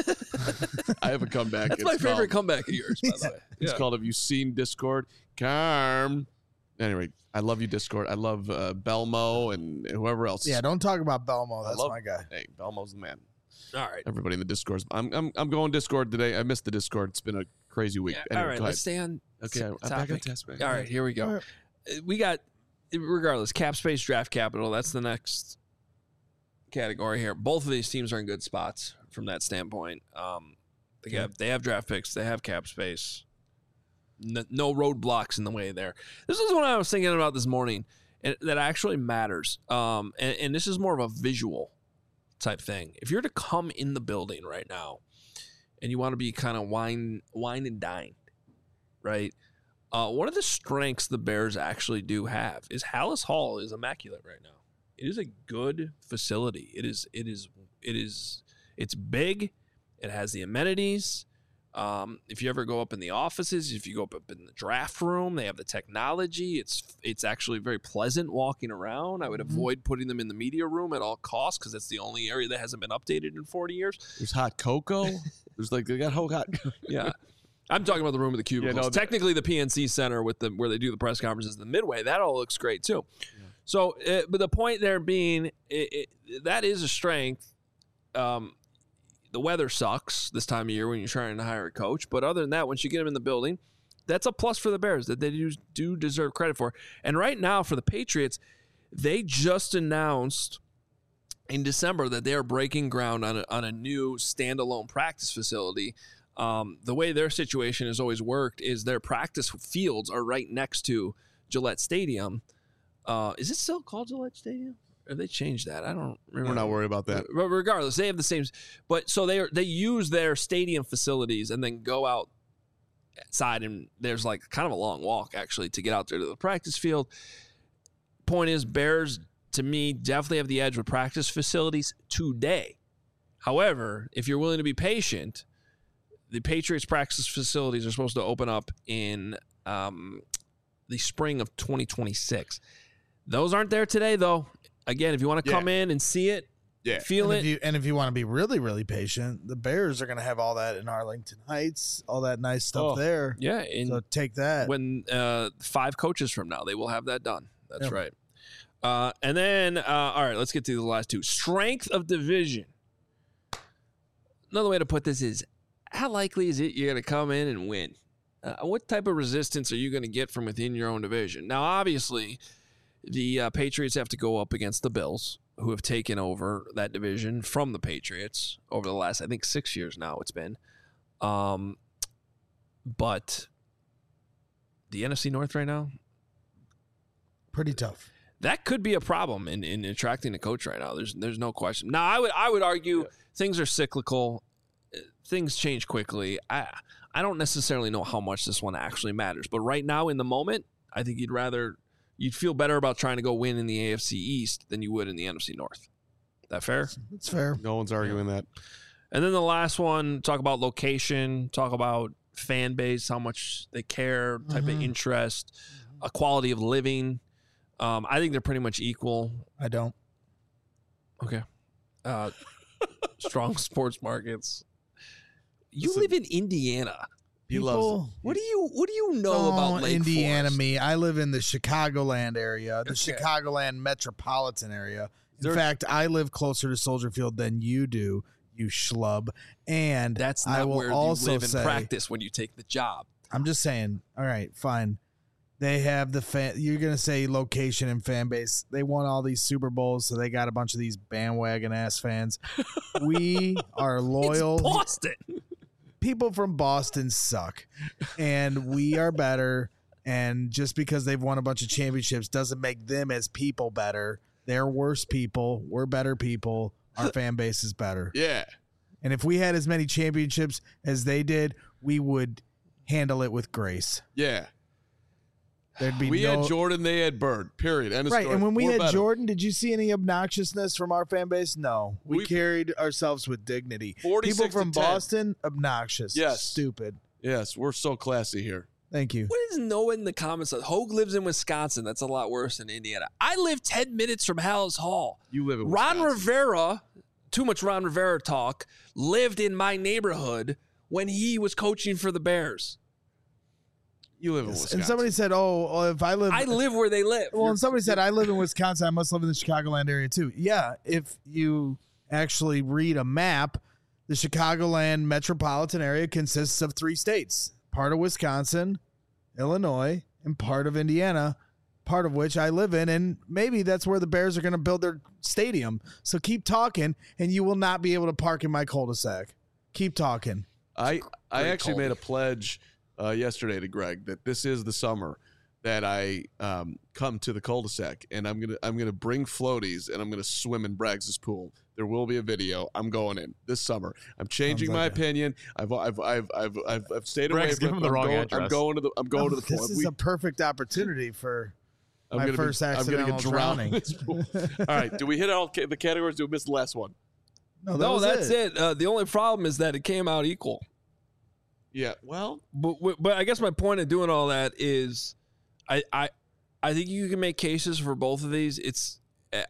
I have a comeback. That's It's my favorite called- comeback of yours, by the way. It's Yeah. called Have You Seen Discord? Carm. Anyway, I love you, Discord. I love uh, Belmo and whoever else. Yeah, don't talk about Belmo. That's love- my guy. Hey, Belmo's the man. All right. Everybody in the Discord. I'm I'm I'm going Discord today. I missed the Discord. It's been a crazy week. Yeah, Anyway, all right, go let's ahead. stay on Okay, I'm s- back on topic. task. man. All right, here we go. All right. Uh, We got, regardless, cap space, draft capital. That's the next category here. Both of these teams are in good spots from that standpoint. Um, they have they have draft picks. They have cap space. No, no roadblocks in the way there. This is what I was thinking about this morning, and that actually matters. Um, and, and this is more of a visual type thing. If you're to come in the building right now, and you want to be kind of wine wine and dined, right? Uh, one of the strengths the Bears actually do have is Hallis Hall is immaculate right now. It is a good facility. It is. It is. It is. It's big. It has the amenities. Um, if you ever go up in the offices, if you go up, up in the draft room, they have the technology. It's it's actually very pleasant walking around. I would Mm-hmm. avoid putting them in the media room at all costs because that's the only area that hasn't been updated in forty years. There's hot cocoa. There's like they got whole hot. Yeah. I'm talking about the room of the cubicles. Yeah, no, Technically, the P N C Center with the where they do the press conferences, the Midway, that all looks great too. Yeah. So, uh, but the point there being, it, it, that is a strength. Um, the weather sucks this time of year when you're trying to hire a coach, but other than that, once you get them in the building, that's a plus for the Bears that they do, do deserve credit for. And right now, for the Patriots, they just announced in December that they are breaking ground on a, on a new standalone practice facility. Um, the way their situation has always worked is their practice fields are right next to Gillette Stadium. Uh, is it still called Gillette Stadium? Or have they changed that? I don't remember. We're not worried about that. But regardless, they have the same. But so they are, they use their stadium facilities and then go outside, and there's like kind of a long walk actually to get out there to the practice field. Point is, Bears to me definitely have the edge with practice facilities today. However, if you're willing to be patient, the Patriots practice facilities are supposed to open up in um, the spring of twenty twenty-six. Those aren't there today, though. Again, if you want to Yeah. come in and see it, Yeah. feel and it. If you, and if you want to be really, really patient, the Bears are going to have all that in Arlington Heights, all that nice stuff Oh, there. yeah, and So take that. when uh, five coaches from now, they will have that done. That's Yep. right. Uh, and then, uh, all right, let's get to the last two. Strength of division. Another way to put this is, how likely is it you're going to come in and win? Uh, what type of resistance are you going to get from within your own division? Now, obviously, the uh, Patriots have to go up against the Bills, who have taken over that division from the Patriots over the last, I think, six years now it's been. Um, but the N F C North right now, Pretty tough. that could be a problem in, in attracting a coach right now. There's there's no question. Now, I would I would argue yeah. things are cyclical. Things change quickly. I I don't necessarily know how much this one actually matters, but right now in the moment, I think you'd rather you'd feel better about trying to go win in the A F C East than you would in the N F C North. That fair? That's fair. No one's arguing that. And then the last one, talk about location, talk about fan base, how much they care, type Mhm. of interest, a quality of living. Um, I think they're pretty much equal. I don't. Okay. Uh, strong sports markets. You Listen, live in Indiana. He loves People- it. What do you What do you know Oh, about Lake Indiana? Forest? Me, I live in the Chicagoland area, the Okay. Chicagoland metropolitan area. In There- fact, I live closer to Soldier Field than you do, you schlub. And That's I not will where also you live and say, practice when you take the job. I'm just saying. All right, fine. They have the fan. You're gonna say location and fan base. They won all these Super Bowls, so they got a bunch of these bandwagon ass fans. We are loyal. It's Boston. People from Boston suck, and we are better. And just because they've won a bunch of championships doesn't make them as people better. They're worse people. We're better people. Our fan base is better. Yeah. And if we had as many championships as they did, we would handle it with grace. Yeah. There'd be We no had Jordan, they had Bird. Period. End of right. story. And when we We're had better. Jordan, did you see any obnoxiousness from our fan base? No, we, We- carried ourselves with dignity. forty-six People to from ten. Boston, obnoxious. Yes. Stupid. Yes, we're so classy here. Thank you. What is no in the comments? Hogue lives in Wisconsin. That's a lot worse than Indiana. I live ten minutes from Hallis Hall. You live in Ron Wisconsin. Rivera, too much Ron Rivera talk, lived in my neighborhood when he was coaching for the Bears. You live in Wisconsin. And somebody said, "Oh, well, if I live, I live where they live. well," and somebody said, "I live in Wisconsin. I must live in the Chicagoland area too." Yeah, if you actually read a map, the Chicagoland metropolitan area consists of three states: part of Wisconsin, Illinois, and part of Indiana. Part of which I live in, and maybe that's where the Bears are going to build their stadium. So keep talking, and you will not be able to park in my cul-de-sac. Keep talking. I I Great actually call. made a pledge uh, yesterday to Greg that this is the summer that I um, come to the cul-de-sac, and I'm gonna I'm gonna bring floaties and I'm gonna swim in Braggs' pool. There will be a video. I'm going in this summer. I'm changing Sounds my like a- opinion. I've I've I've I've I've, I've stayed away Bregg's from giving it. the I'm wrong going, I'm address. going to the I'm going to the this pool. is We- a perfect opportunity for I'm my gonna first be, I'm gonna accidental get drowned drowning. in this pool. All right, do we hit all ca- the categories? Do we miss the last one? No, that No, was that's it. it. Uh, the only problem is that it came out equal. Yeah, well, But but I guess my point of doing all that is, I I I think you can make cases for both of these. It's uh,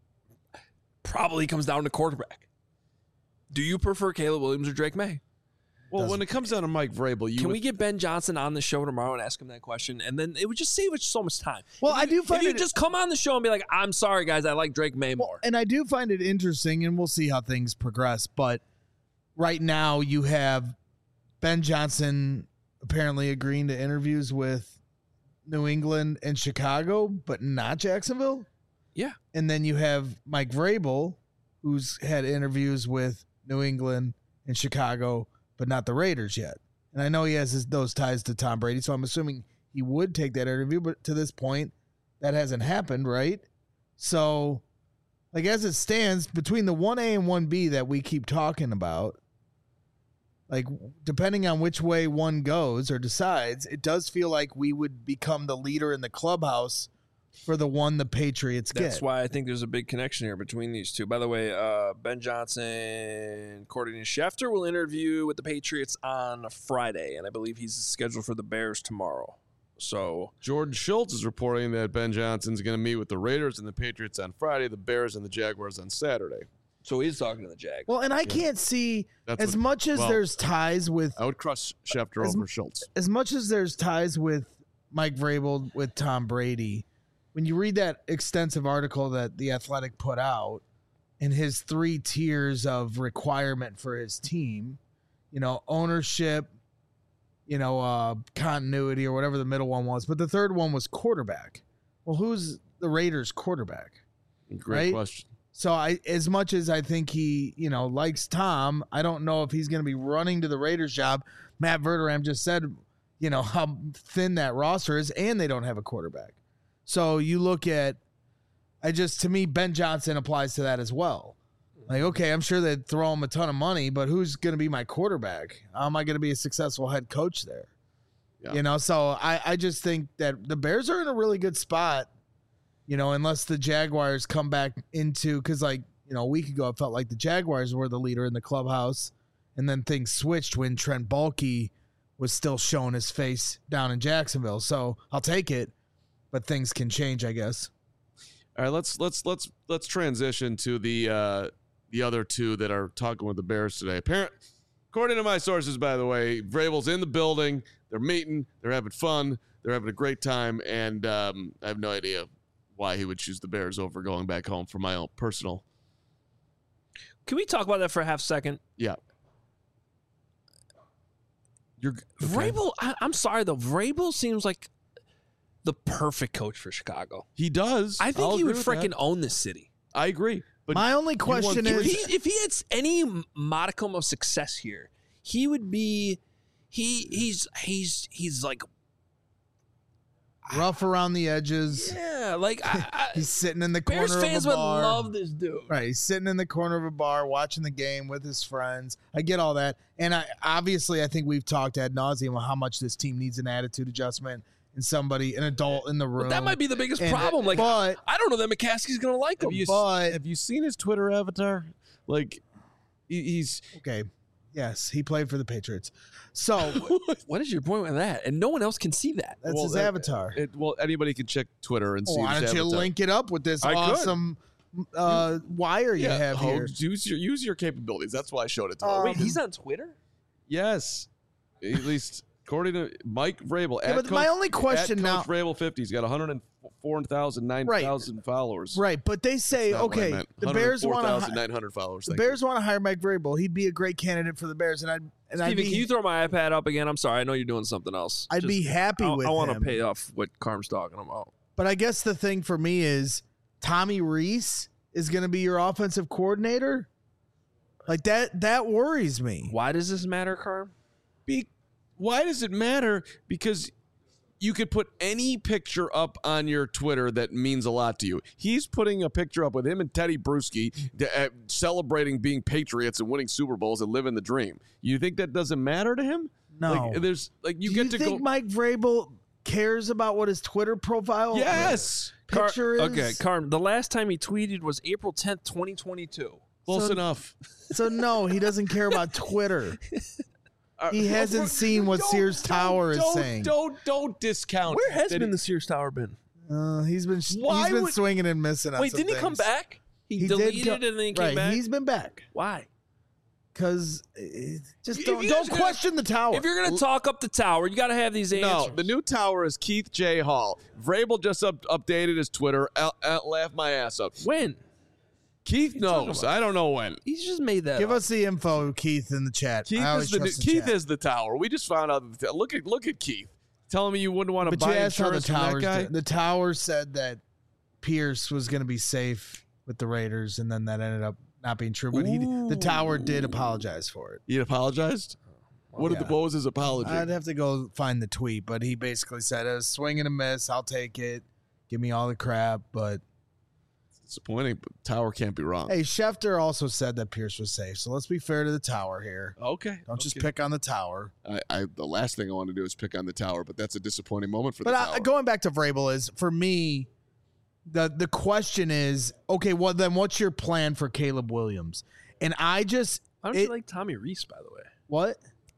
probably comes down to quarterback. Do you prefer Caleb Williams or Drake May? well, when it comes down to Mike Vrabel, you Can would, we get Ben Johnson on the show tomorrow and ask him that question? And then it would just save us so much time. Well, If I you- do find if you it- just come on the show and be like, I'm sorry, guys, I like Drake May more. And I do find it interesting, and we'll see how things progress. But right now, you have Ben Johnson apparently agreeing to interviews with New England and Chicago, but not Jacksonville. Yeah. And then you have Mike Vrabel, who's had interviews with New England and Chicago, but not the Raiders yet. And I know he has his, those ties to Tom Brady, so I'm assuming he would take that interview. But to this point, that hasn't happened, right? So, like as it stands, between the one A and one B that we keep talking about, like depending on which way one goes or decides, it does feel like we would become the leader in the clubhouse for the one the Patriots That's get. why I think there's a big connection here between these two. By the way, uh, Ben Johnson, according to Schefter, will interview with the Patriots on Friday, and I believe he's scheduled for the Bears tomorrow. So Jordan Schultz is reporting that Ben Johnson's going to meet with the Raiders and the Patriots on Friday, the Bears and the Jaguars on Saturday. so he's talking to the Jags. Well, and I can't see That's as what- much as well, there's ties with I would crush Schefter As- over Schultz. as much as there's ties with Mike Vrabel with Tom Brady. When you read that extensive article that The Athletic put out and his three tiers of requirement for his team, you know, ownership, you know, uh, continuity or whatever the middle one was, but the third one was quarterback. Well, who's the Raiders quarterback? Great right? question. So I, as much as I think he, you know, likes Tom, I don't know if he's going to be running to the Raiders job. Matt Verderam just said, you know, how thin that roster is, and they don't have a quarterback. So you look at, I just, to me, Ben Johnson applies to that as well. Like, okay, I'm sure they'd throw him a ton of money, but who's going to be my quarterback? How am I going to be a successful head coach there? Yeah. You know, so I, I just think that the Bears are in a really good spot, you know, unless the Jaguars come back into, because, like, you know, a week ago, it felt like the Jaguars were the leader in the clubhouse, and then things switched when Trent Baalke was still showing his face down in Jacksonville. So I'll take it. But things can change, I guess. All right, let's let's let's let's transition to the uh, the other two that are talking with the Bears today. Apparent, according to my sources, by the way, Vrabel's in the building. They're meeting. They're having fun. They're having a great time, and um, I have no idea why he would choose the Bears over going back home for my own personal. Can we talk about that for a half second? Yeah. You're okay. Vrabel, I, I'm sorry though. Vrabel seems like the perfect coach for Chicago. He does. I think I'll he would agree with that. freaking own this city. I agree. But My only question want If is, he, if he had any modicum of success here, he would be. He he's he's he's like rough around the edges. yeah, like I, I, He's sitting in the corner Bears fans of a would bar. love this dude. Right, he's sitting in the corner of a bar watching the game with his friends. I get all that, and I obviously I think we've talked ad nauseum on how much this team needs an attitude adjustment and somebody, an adult in the room. But that might be the biggest And- problem. Like but I don't know that McCaskey's gonna like him. have you, but- have you seen his Twitter avatar? Like, he- he's okay. Yes, he played for the Patriots, so What is your point with that? And no one else can see that. that's Well, his uh, avatar. it, well, anybody can check Twitter and see. Why his don't you avatar. link it up with this I could. awesome uh, wire you Yeah, have Hogue, here? use your use your capabilities. That's why I showed it to him. Um, Wait, he's on Twitter? Yes, at least according to Mike Vrabel. Yeah, at but my only question at now, Coach Vrabel fifty, he's got one hundred four thousand nine thousand followers. right? But they say, That's not what I okay, meant. the Bears want to. one hundred four thousand nine hundred followers. The Thank Bears want to hire Mike Vrabel. He'd be a great candidate for the Bears, and I'd and I'd Steven, be can you throw my iPad up again? I'm sorry. I know you're doing something else. I'd Just- be happy I, with I want to him. pay off what Carm's talking about. But I guess the thing for me is Tommy Reese is going to be your offensive coordinator. Like that that worries me. Why does this matter, Carm? Be, why does it matter? Because you could put any picture up on your Twitter that means a lot to you. He's putting a picture up with him and Teddy Bruschi uh, celebrating being Patriots and winning Super Bowls and living the dream. You think that doesn't matter to him? No. Like, there's like you Do get you to think go. Mike Vrabel cares about what his Twitter profile Yes. Car- picture is? Okay, Carm, the last time he tweeted was April tenth, twenty twenty-two. Close So- enough. So no, he doesn't care about Twitter. He hasn't seen what Don't- Sears don't- Tower is don't, saying. Don't don't discount. Where has that been he- the Sears Tower been? Uh, he's been Why he's been would- swinging and missing. On Wait, some didn't he come things. back? He, He did deleted go- it and then he came right, back. he's been back Why? because just If don't you don't guys are gonna- question the tower. If you're gonna talk up the tower, you got to have these answers. No, the new tower is Keith J. Hall. Vrabel just up, updated his Twitter. I'll, I'll laugh my ass up. when Keith talking knows. about? I don't know when. he's just made that. Give up. us the info, Keith, in the chat. Keith I always is the new, trust the Keith chat. is the tower. We just found out. That the, look at look at Keith telling me you wouldn't want to But you buy asked how the insurance from that towers. guy. The tower said that Pierce was going to be safe with the Raiders, and then that ended up not being true. But he, the tower did apologize for it. He apologized. What did yeah. the what was his apology? I'd have to go find the tweet, but he basically said, "A swing and a miss. I'll take it. Give me all the crap." But Disappointing, but tower can't be wrong. hey, Schefter also said that Pierce was safe. So let's be fair to the tower here. Okay, Don't just okay. pick on the tower. I, I the last thing I want to do is pick on the tower, but that's a disappointing moment for But the I, tower. going back to Vrabel is for me, the the question is, okay, well then what's your plan for Caleb Williams? And I just Why don't it- you like Tommy Reese, by the way? what?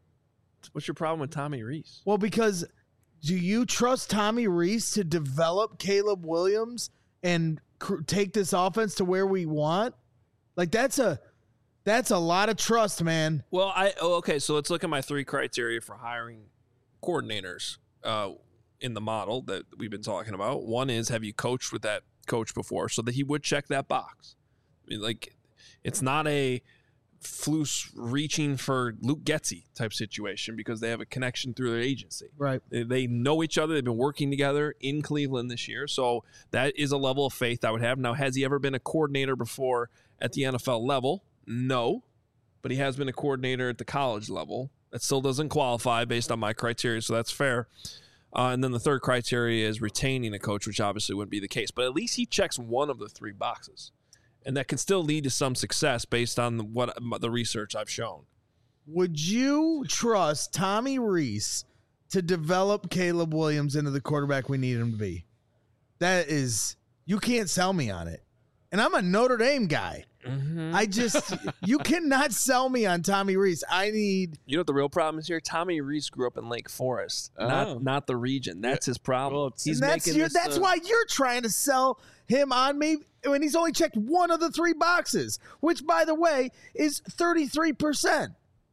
What's your problem with Tommy Reese? Well, because do you trust Tommy Reese to develop Caleb Williams and cr- take this offense to where we want? Like that's a that's a lot of trust, man. Well, I oh, okay. So let's look at my three criteria for hiring coordinators uh, in the model that we've been talking about. One is, have you coached with that coach before, so that he would check that box. I mean, like, it's not a Flus reaching for Luke Getsy type situation because they have a connection through their agency. Right. They, they know each other. They've been working together in Cleveland this year. So that is a level of faith I would have. Now, has he ever been a coordinator before at the N F L level? No. But he has been a coordinator at the college level. That still doesn't qualify based on my criteria, so that's fair. Uh, and then the third criteria is retaining a coach, which obviously wouldn't be the case. But at least he checks one of the three boxes. And that can still lead to some success based on what the research I've shown. Would you trust Tommy Reese to develop Caleb Williams into the quarterback we need him to be? That is, you can't sell me on it. And I'm a Notre Dame guy. Mm-hmm. I just, you cannot sell me on Tommy Reese. I need, You know what the real problem is here? Tommy Reese grew up in Lake Forest, Oh. not not the region. That's his problem. Well, it's- He's and that's making your, this, that's uh, why you're trying to sell him on me when he's only checked one of the three boxes, which, by the way, is thirty-three percent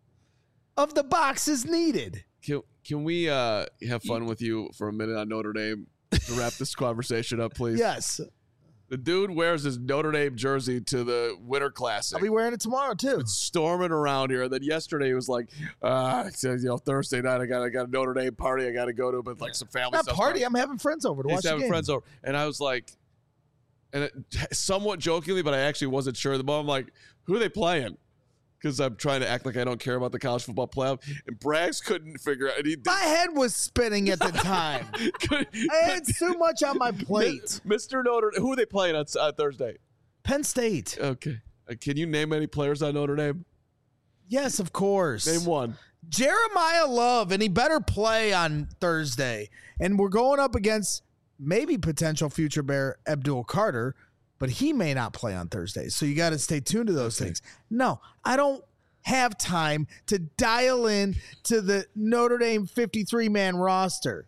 of the boxes needed. Can, can we uh, have fun with you for a minute on Notre Dame to wrap this conversation up, please? Yes. The dude wears his Notre Dame jersey to the Winter Classic. I'll be wearing it tomorrow, too. Storming around here. Then yesterday he was like, uh, you know, Thursday night I got I got a Notre Dame party I got to go to, but like some family Not stuff. party. I'm having friends over to He's watch the having game. friends over, and I was like, and it, somewhat jokingly, but I actually wasn't sure. The moment I'm like, who are they playing? Because I'm trying to act like I don't care about the college football playoff. And Braggs couldn't figure out. And he My head was spinning at the time. could, I had too much on my plate. Mister Notre, who are they playing on uh, Thursday? Penn State. Okay, uh, can you name any players on Notre Dame? Yes, of course. Name one. Jeremiah Love, and he better play on Thursday. And we're going up against maybe potential future Bear Abdul Carter, but he may not play on Thursday. So you got to stay tuned to those things. No, I don't have time to dial in to the Notre Dame fifty-three man roster.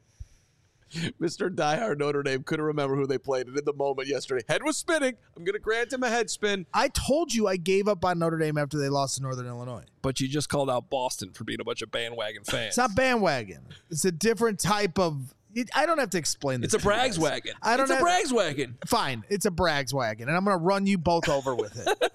Mister Diehard Notre Dame couldn't remember who they played, and in the moment yesterday, head was spinning. I'm going to grant him a head spin. I told you I gave up on Notre Dame after they lost to Northern Illinois. But you just called out Boston for being a bunch of bandwagon fans. It's not bandwagon. It's a different type of. It, I don't have to explain this. It's a to you Braggs guys. wagon. I don't it's a have- Braggs wagon. Fine, it's a Braggs wagon, and I'm going to run you both over with it.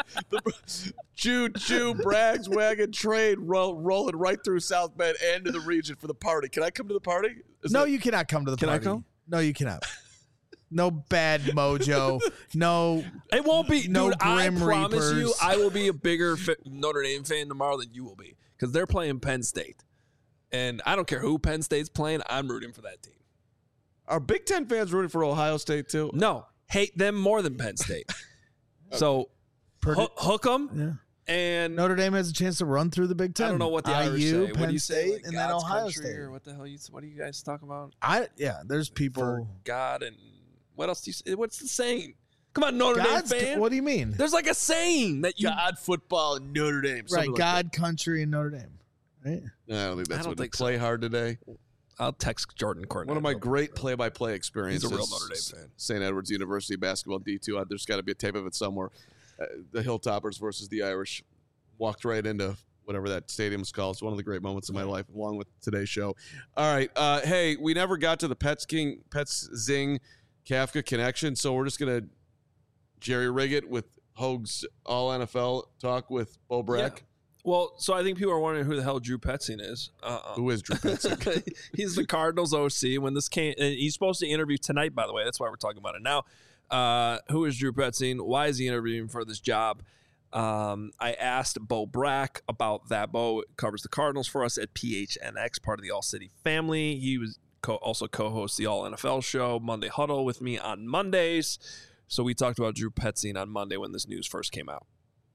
Choo choo Braggs wagon train roll, rolling right through South Bend and to the region for the party. Can I come to the party? Is No, that- you cannot come to the Can I party. come? No, you cannot. No bad mojo. No. It won't be. No dude, I Grim promise you, Reapers. I will be a bigger fa- Notre Dame fan tomorrow than you will be because they're playing Penn State, and I don't care who Penn State's playing. I'm rooting for that team. Are Big Ten fans rooting for Ohio State too? No, hate them more than Penn State. So Purdue- hook, hook them, Yeah. and Notre Dame has a chance to run through the Big Ten. I don't know what the Irish I U, say. Penn What do you say? State, Like and then God's Ohio country, State. or what the hell? You what do you guys talk about? I yeah. There's For people. God and what else do you say? What's the saying? Come on, Notre God's, Dame fan. what do you mean? There's like a saying that you. God, football, and Notre Dame. Right, Like God, that. country, and Notre Dame. Right? No, I don't think that's I don't what think play so. hard today. I'll text Jordan Cornette. One of my great play-by-play experiences. He's a real Notre Dame fan. Saint Edward's University basketball D two. There's got to be a tape of it somewhere. Uh, the Hilltoppers versus the Irish. Walked right into whatever that stadium's called. It's one of the great moments of my life, along with today's show. All right. Uh, hey, we never got to the Pets King, Pets Zing Kafka connection, so we're just going to Jerry rig it with Hoag's all N F L talk with Bo Brack. Yeah. Well, so I think people are wondering who the hell Drew Petzing is. Uh-uh. Who is Drew Petzing? He's the Cardinals O C. When this came, and he's supposed to interview tonight, by the way. That's why we're talking about it now. Uh, who is Drew Petzing? Why is he interviewing for this job? Um, I asked Bo Brack about that. Bo covers the Cardinals for us at P H N X, part of the All City family. He was co- also co-hosts the All N F L show, Monday Huddle, with me on Mondays. So we talked about Drew Petzing on Monday when this news first came out.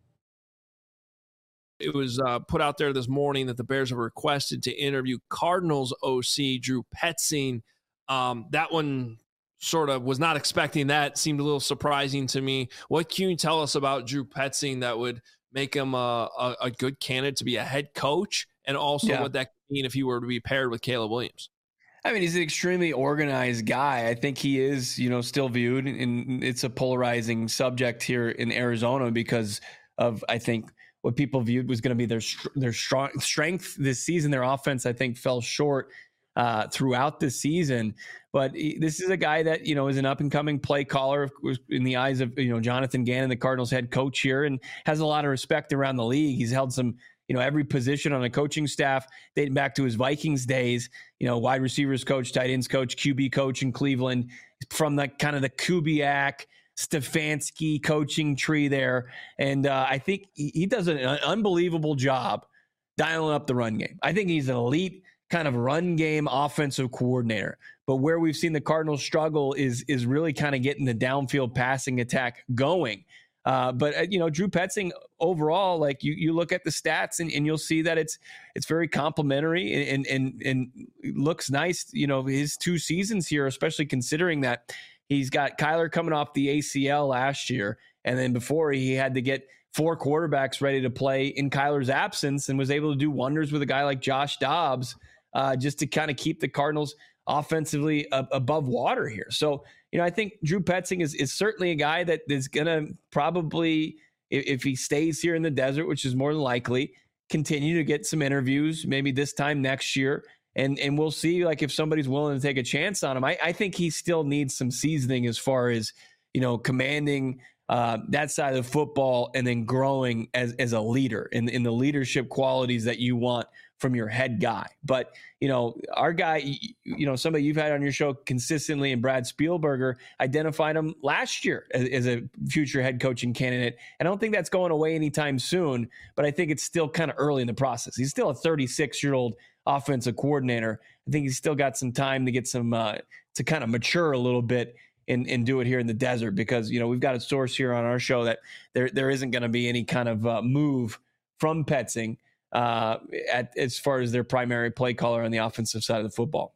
It was uh, put out there this morning that the Bears have requested to interview Cardinals O C Drew Petzing. Um, that one sort of was not expecting that. Seemed a little surprising to me. What can you tell us about Drew Petzing that would make him a, a, a good candidate to be a head coach, and also yeah. what that could mean if he were to be paired with Caleb Williams? I mean, he's an extremely organized guy. I think he is, you know, still viewed, and it's a polarizing subject here in Arizona because of, I think, what people viewed was going to be their their strong strength this season. Their offense, I think, fell short uh, throughout the season. But he, this is a guy that, you know, is an up and coming play caller in the eyes of, you know, Jonathan Gannon, the Cardinals head coach here, and has a lot of respect around the league. He's held some, you know, every position on the coaching staff dating back to his Vikings days, you know, wide receivers coach, tight ends coach, Q B coach in Cleveland, from the kind of the Kubiak, Stefanski coaching tree there. And uh, I think he, he does an, an unbelievable job dialing up the run game. I think he's an elite kind of run game offensive coordinator. But where we've seen the Cardinals struggle is, is really kind of getting the downfield passing attack going. Uh, but, uh, you know, Drew Petzing overall, like you, you look at the stats and, and you'll see that it's it's very complimentary and, and, and looks nice. You know, his two seasons here, especially considering that he's got Kyler coming off the A C L last year. And then before he had to get four quarterbacks ready to play in Kyler's absence, and was able to do wonders with a guy like Josh Dobbs uh, just to kind of keep the Cardinals offensively uh, above water here. So, you know, I think Drew Petzing is, is certainly a guy that is going to probably, if, if he stays here in the desert, which is more than likely, continue to get some interviews, maybe this time next year. And and we'll see, like, if somebody's willing to take a chance on him. I, I think he still needs some seasoning as far as, you know, commanding uh, that side of football and then growing as, as a leader in, in the leadership qualities that you want from your head guy. But, you know, our guy, you know, somebody you've had on your show consistently, and Brad Spielberger identified him last year as, as a future head coaching candidate. I don't think that's going away anytime soon, but I think it's still kind of early in the process. He's still a thirty-six-year-old offensive coordinator. I think he's still got some time to get some, uh, to kind of mature a little bit and, and do it here in the desert, because, you know, we've got a source here on our show that there there isn't going to be any kind of uh, move from Petzing uh, at, as far as their primary play caller on the offensive side of the football.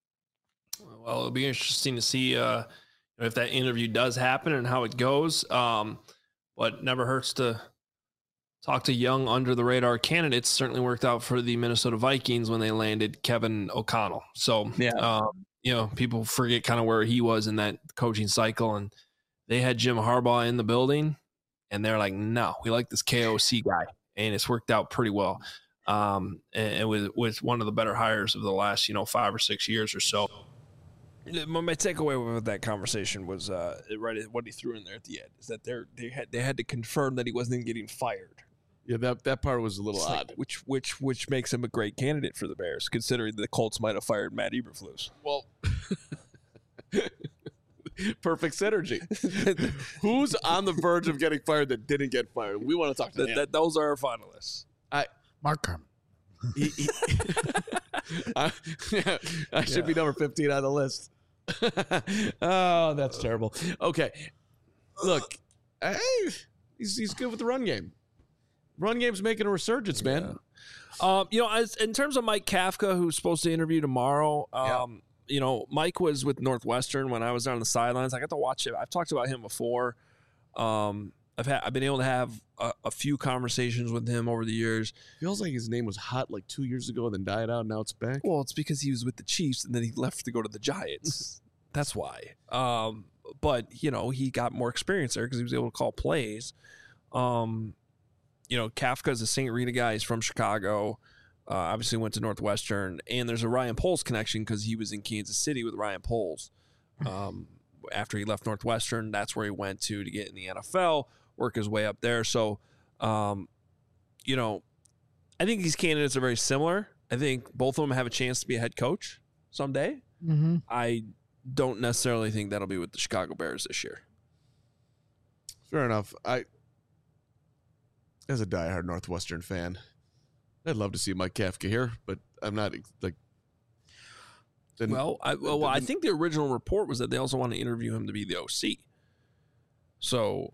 Well, it'll be interesting to see uh, if that interview does happen and how it goes. Um, but never hurts to talk to young, under-the-radar candidates. Certainly worked out for the Minnesota Vikings when they landed Kevin O'Connell. So, yeah. um, you know, people forget kind of where he was in that coaching cycle. And they had Jim Harbaugh in the building, and they're like, no, we like this K O C guy. And it's worked out pretty well. Um, and it was, was one of the better hires of the last, you know, five or six years or so. My takeaway with that conversation was uh, right what he threw in there at the end is that they they had they had to confirm that he wasn't getting fired. Yeah, that, that part was a little it's odd. Like, which which which makes him a great candidate for the Bears, considering the Colts might have fired Matt Eberflus. Well, perfect synergy. Who's on the verge of getting fired that didn't get fired? We want to talk to that, him. That, those are our finalists. I Mark Carman. He, he, I, yeah, I should yeah. be number fifteen on the list. Oh, that's terrible. Okay, look, hey, he's he's good with the run game. Run game's making a resurgence, man. Yeah. Um, you know, as in terms of Mike Kafka, who's supposed to interview tomorrow. Um, yeah. You know, Mike was with Northwestern when I was on the sidelines. I got to watch him. I've talked about him before. Um, I've had I've been able to have a, a few conversations with him over the years. Feels like his name was hot like two years ago, then died out. Now it's back. Well, it's because he was with the Chiefs and then he left to go to the Giants. That's why. Um, but you know, he got more experience there because he was able to call plays. Um, you know, Kafka's a Saint Rita guy. He's from Chicago. Uh, obviously went to Northwestern, and there's a Ryan Poles connection because he was in Kansas City with Ryan Poles. Um, after he left Northwestern, that's where he went to to get in the N F L, work his way up there. So, um, you know, I think these candidates are very similar. I think both of them have a chance to be a head coach someday. Mm-hmm. I don't necessarily think that'll be with the Chicago Bears this year. Fair enough. I, as a diehard Northwestern fan, I'd love to see Mike Kafka here, but I'm not like. Then, well, I, well, then, I think the original report was that they also want to interview him to be the O C. So,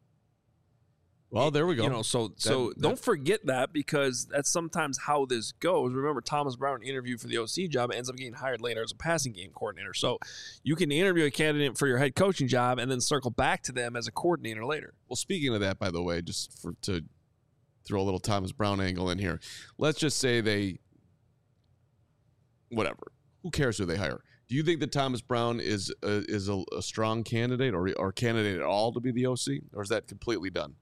well, there we go. You know, so so that, don't that, forget that because that's sometimes how this goes. Remember, Thomas Brown interviewed for the O C job and ends up getting hired later as a passing game coordinator. So you can interview a candidate for your head coaching job and then circle back to them as a coordinator later. Well, speaking of that, by the way, just for to throw a little Thomas Brown angle in here, let's just say they, whatever. Who cares who they hire? Do you think that Thomas Brown is a, is a, a strong candidate or or candidate at all to be the O C, or is that completely done?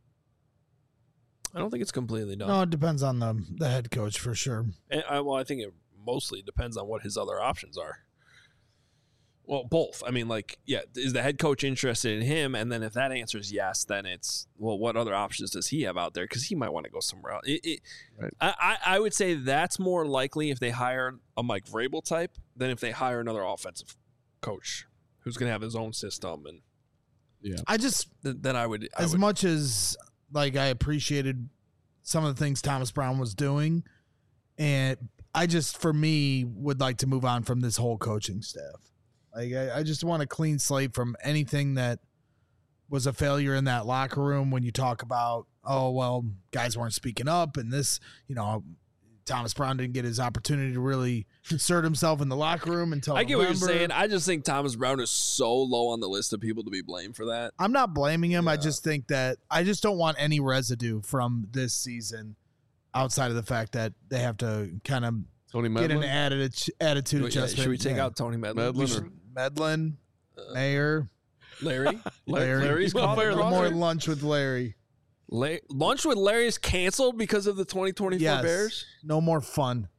I don't think it's completely done. No, it depends on the the head coach for sure. And I, well, I think it mostly depends on what his other options are. Well, both. I mean, like, yeah, is the head coach interested in him? And then if that answer is yes, then it's, well, what other options does he have out there? Because he might want to go somewhere else. It, it, right. I, I would say that's more likely if they hire a Mike Vrabel type than if they hire another offensive coach who's going to have his own system. And yeah, I just, th- then I would. I as would, much as like I appreciated some of the things Thomas Brown was doing, and I just, for me, would like to move on from this whole coaching staff. Like, I, I just want a clean slate from anything that was a failure in that locker room when you talk about, oh, well, guys weren't speaking up and this, you know, Thomas Brown didn't get his opportunity to really assert himself in the locker room until I get November. what you're saying. I just think Thomas Brown is so low on the list of people to be blamed for that. I'm not blaming him. Yeah. I just think that I just don't want any residue from this season outside of the fact that they have to kind of Tony get an Medlin. added attitude Yeah, adjustment. should we take Yeah. out Tony Medlin? Medlin We or- should- Medlin, uh, Mayor, Larry? Larry. Larry's You want caught to fire in the the more crossfire? lunch with Larry. La- Lunch with Larry is canceled because of the twenty twenty-four Yes. Bears? No more fun.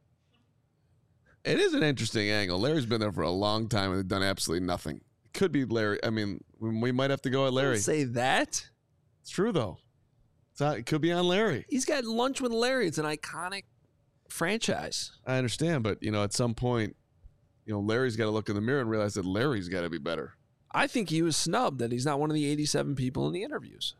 It is an interesting angle. Larry's been there for a long time and they've done absolutely nothing. It could be Larry. I mean, we, we might have to go at Larry. Don't say that. It's true though. It's not, it could be on Larry. He's got Lunch with Larry. It's an iconic franchise. I understand, but you know, at some point, you know, Larry's got to look in the mirror and realize that Larry's got to be better. I think he was snubbed that he's not one of the eighty-seven people in the interviews.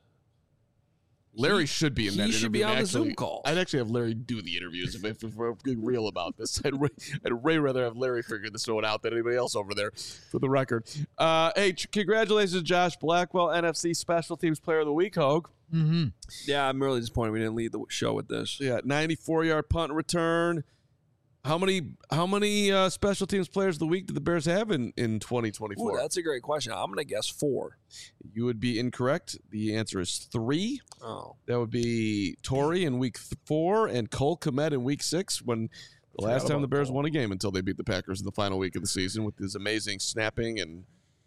Larry He- should be in he that should interview. be on the actually, Zoom calls. I'd actually have Larry do the interviews if, if, if we're being real about this. I'd, way, I'd way rather have Larry figure this one out than anybody else over there, for the record. Uh, hey, ch- congratulations to Josh Blackwell, N F C Special Teams Player of the Week, Hogue. Mm-hmm. Yeah, I'm really disappointed we didn't lead the show with this. Yeah, ninety-four yard punt return. How many how many uh, special teams players of the week did the Bears have in, in twenty Ooh, twenty-four? that's a great question. I'm going to guess four. You would be incorrect. The answer is three. Oh. That would be Torrey in week th- four and Cole Kmet in week six, when the last Forgot time the about Bears Cole. won a game until they beat the Packers in the final week of the season with his amazing snapping, and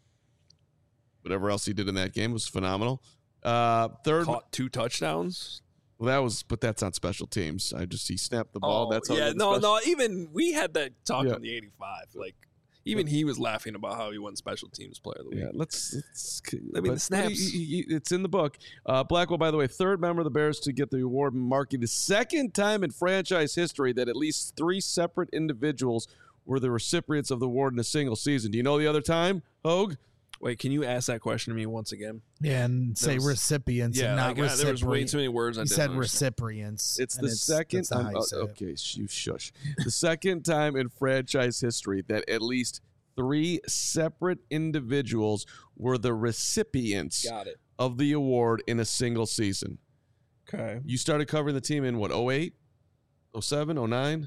whatever else he did in that game was phenomenal. Uh, third, Caught two touchdowns. well, that was, but that's on special teams. I just he snapped the ball. Oh, that's how yeah, he did no, special- no. Even we had that talk Yeah. on the eighty-five. Like, even he was laughing about how he won special teams player of the week. Yeah, let's. let's I mean, but- the but snaps. he- he- he- it's in the book. Uh, Blackwell, by the way, third member of the Bears to get the award, marking the second time in franchise history that at least three separate individuals were the recipients of the award in a single season. Do you know the other time, Hogue? Wait, can you ask that question to me once again? Yeah, and say was- recipients Yeah, and not like, uh, there was way recipients. too many words I He didn't said understand. recipients. It's and the second that's not time. how you oh, say it. okay, you shush. The second time in franchise history that at least three separate individuals were the recipients Got it. of the award in a single season. Okay. You started covering the team in what, oh eight, oh seven, oh nine?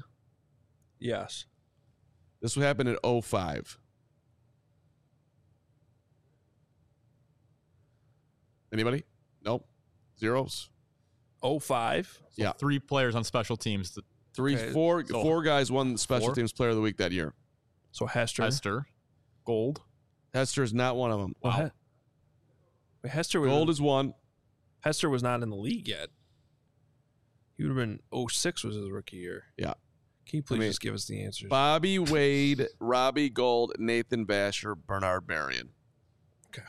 Yes. This would happen in oh five. Anybody? Nope. Zeros. oh five. So Yeah. three players on special teams. The Three, Okay, four, so- four guys won the special Four? teams player of the week that year. So Hester. Hester, Gold. Hester is not one of them. Well, He- Wait, Hester was Gold is one. Hester was not in the league yet. He would have been oh six was his rookie year. Yeah. Can you please mean, just give us the answers? Bobby Wade, Robbie Gold, Nathan Basher, Bernard Marion. Okay.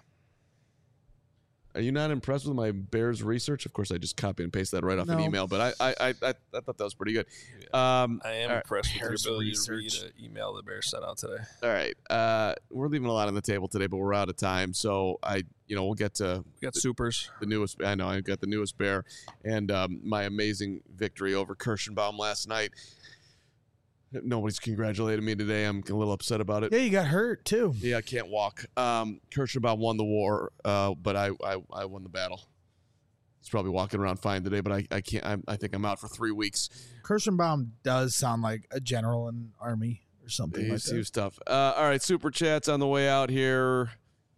Are you not impressed with my Bears research? Of course, I just copy and paste that right off an No. email, but I I, I, I I thought that was pretty good. Um, I am all right. impressed with your Bears ability research. to read an email the Bears sent out today. All right. Uh, we're leaving a lot on the table today, but we're out of time. So I, you know, we'll get to We got supers. the newest. I know I got the newest Bear and um, my amazing victory over Kirschenbaum last night. Nobody's congratulated me today. I'm a little upset about it. Yeah, you got hurt too. Yeah, I can't walk. Um, Kirschenbaum won the war, uh, but I, I I won the battle. He's probably walking around fine today, but I, I can't. I, I think I'm out for three weeks. Kirschenbaum does sound like a general in army or something He like was, he that. was tough. Uh, all right, super chats on the way out here.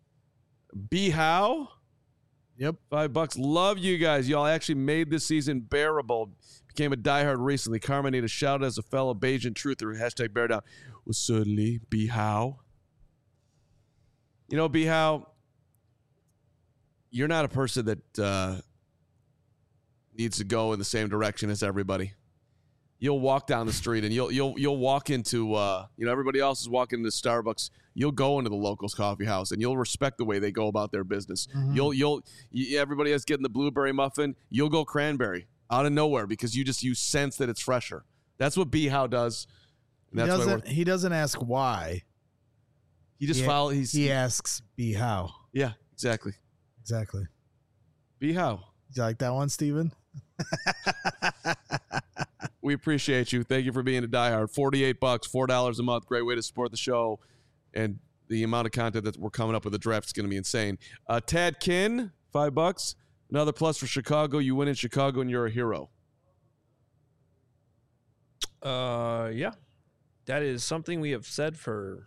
B How. Yep. Five bucks. Love you guys. Y'all actually made this season bearable. Became a diehard recently. Carmen need a shout out as a fellow Bajan truther. Hashtag bear down. Was certainly be how. You know, be how. You're not a person that uh, needs to go in the same direction as everybody. You'll walk down the street and you'll you'll you'll walk into uh, you know, everybody else is walking into Starbucks. You'll go into the locals coffee house and you'll respect the way they go about their business. Mhm. You'll you'll you, everybody else getting the blueberry muffin. You'll go cranberry out of nowhere because you just you sense that it's fresher. That's what B How does. And He that's why doesn't. we're, He doesn't ask why. he just he- follow. He's He asks, "Be how?" yeah, exactly. Exactly. B How. You like that one, Steven? We appreciate you. Thank you for being a diehard. Forty-eight bucks, four dollars a month. Great way to support the show, and the amount of content that we're coming up with the draft is going to be insane. Uh, Tad Kin, five bucks. Another plus for Chicago. You win in Chicago, and you're a hero. Uh, yeah, that is something we have said for.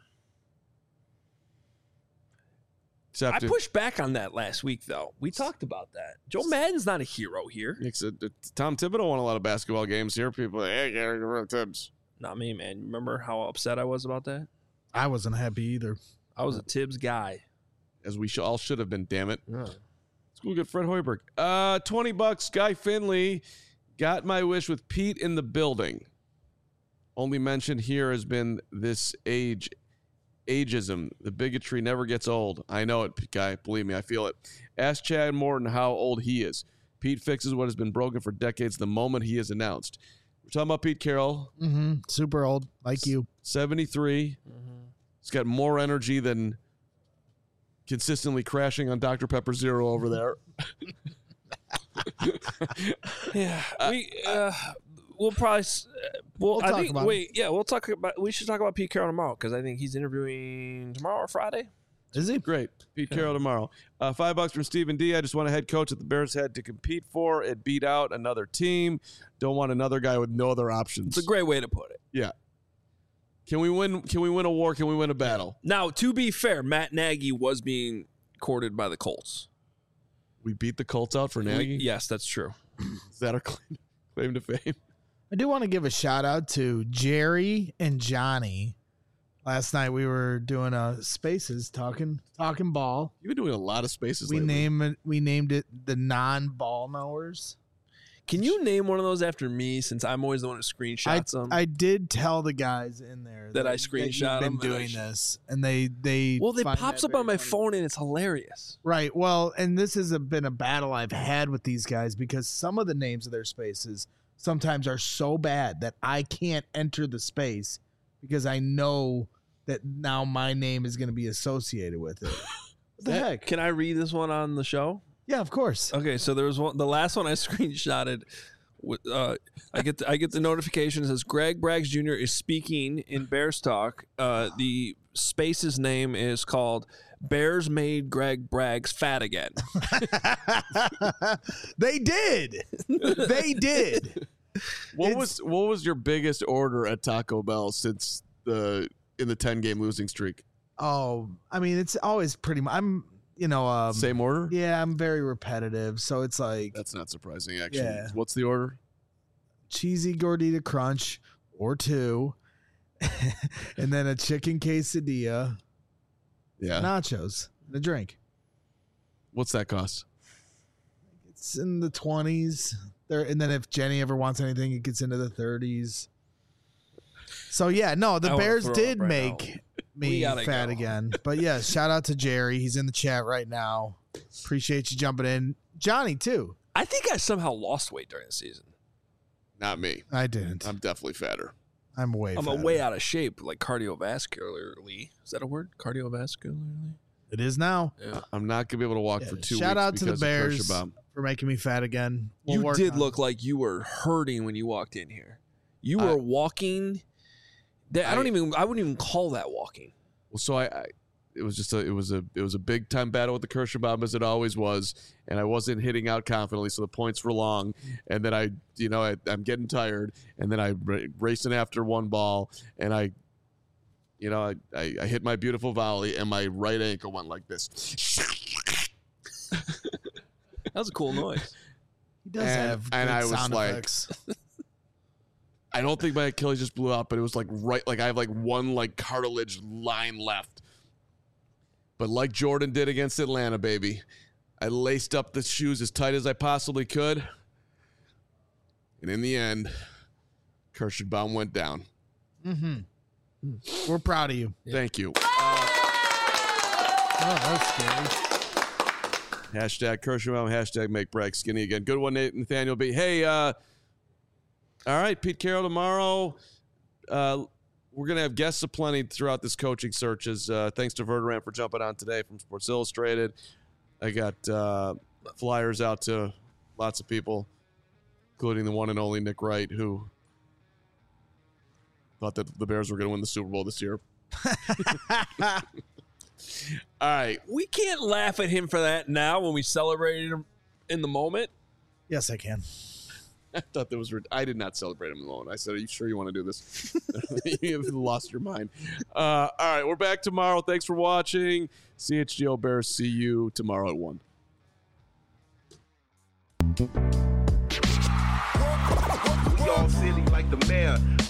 Except I if- pushed back on that last week, though. We talked about that. Joe Madden's not a hero here. Except, uh, Tom Thibodeau won a lot of basketball games here. People, are like, hey, get rid of Tibbs. Not me, man. Remember how upset I was about that? I wasn't happy either. I was a Tibbs guy. As we sh- all should have been. Damn it. Yeah. Let's go get Fred Hoiberg. Uh, twenty bucks. Guy Finley got my wish with Pete in the building. Only mentioned here has been this age, ageism. The bigotry never gets old. I know it, Guy. Believe me, I feel it. Ask Chad Morton how old he is. Pete fixes what has been broken for decades the moment he is announced. We're talking about Pete Carroll, Mm-hmm. Super old, like you. seventy-three. He's got more energy than consistently crashing on Doctor Pepper Zero over there. Yeah, we uh, we'll probably s- uh, we'll, We'll I talk think about wait yeah we'll talk about we should talk about Pete Carroll tomorrow because I think he's interviewing tomorrow or Friday. Is he? Great. Pete Carroll tomorrow. Uh, five bucks from Stephen D. I just want a head coach that the Bears had to compete for. It beat out another team. Don't want another guy with no other options. It's a great way to put it. Yeah. Can we win? Can we win a war? Can we win a battle? Now, to be fair, Matt Nagy was being courted by the Colts. We beat the Colts out for We- Nagy. yes, that's true. Is that our claim, claim to fame? I do want to give a shout out to Jerry and Johnny. Last night we were doing a spaces talking talking ball. You've been doing a lot of spaces. We lately. name it we named it the non-ball knowers. Can you name one of those after me since I'm always the one who screenshots them? I did tell the guys in there That I you've screenshot been them and I doing sh- this, and they they well, it find pops that up on very my funny. phone and it's hilarious. Right. Well, and this has a, been a battle I've had with these guys because some of the names of their spaces sometimes are so bad that I can't enter the space because I know that now my name is going to be associated with it. What the heck? Can I read this one on the show? Yeah, of course. Okay, so there was one. The last one I screenshotted. with, Uh, I get the, I get the notification. It says Greg Braggs Junior is speaking in Bears Talk. Uh, the space's name is called Bears Made Greg Braggs Fat Again. They did. They did. What It's- was what was your biggest order at Taco Bell since the in the ten game losing streak? Oh, I mean, it's always pretty much. I'm you know, um, Same order? yeah, I'm very repetitive. So it's like That's not surprising, actually. Yeah. What's the order? cheesy gordita crunch or two, and then a chicken quesadilla, Yeah. nachos, and a drink. What's that cost? It's in the twenties. There, and then if Jenny ever wants anything, it gets into the thirties. So yeah, no, the I wanna Bears throw did up right make We me gotta fat go. again. But yeah, shout out to Jerry. He's in the chat right now. Appreciate you jumping in. Johnny too. I think I somehow lost weight during the season. Not me. I didn't. I'm definitely fatter. I'm way. I'm fatter. way out of shape, like cardiovascularly. Is that a word? Cardiovascularly? It is now. Yeah. I'm not gonna be able to walk Yeah, for two shout weeks out to the because of Bears Kirschbaum. for making me fat again. We'll You work did on look it. like you were hurting when you walked in here. You I- were walking. That, I, don't I- even. I wouldn't even call that walking. Well, so I, I, it was just a, it was a, it was a big time battle with the Kirschbaum as it always was, and I wasn't hitting out confidently, so the points were long, and then I, you know, I, I'm getting tired, and then I ra- racing after one ball, and I, you know, I, I, I hit my beautiful volley, and my right ankle went like this. That was a cool noise. He does and- have and good I was sound like- effects. I don't think my Achilles just blew out, but it was like right, like I have like one like cartilage line left. But like Jordan did against Atlanta, baby, I laced up the shoes as tight as I possibly could. And in the end, Kirschbaum went down. Mm-hmm. We're proud of you. Thank you. Oh, that's scary. Hashtag Kirschbaum, hashtag make Bragg skinny again. Good one, Nate, Nathaniel B. Hey, uh, all right, Pete Carroll tomorrow. Uh, we're going to have guests aplenty throughout this coaching searches. Uh, thanks to Verderame for jumping on today from Sports Illustrated. I got uh, flyers out to lots of people, including the one and only Nick Wright, who thought that the Bears were going to win the Super Bowl this year. All right. We can't laugh at him for that now when we celebrated him in the moment. Yes, I can. I thought that was. I did not celebrate him alone. I said, "Are you sure you want to do this?" You've lost your mind. Uh, all right, we're back tomorrow. Thanks for watching. C H G O Bears. See you tomorrow at one. We all silly like the mayor.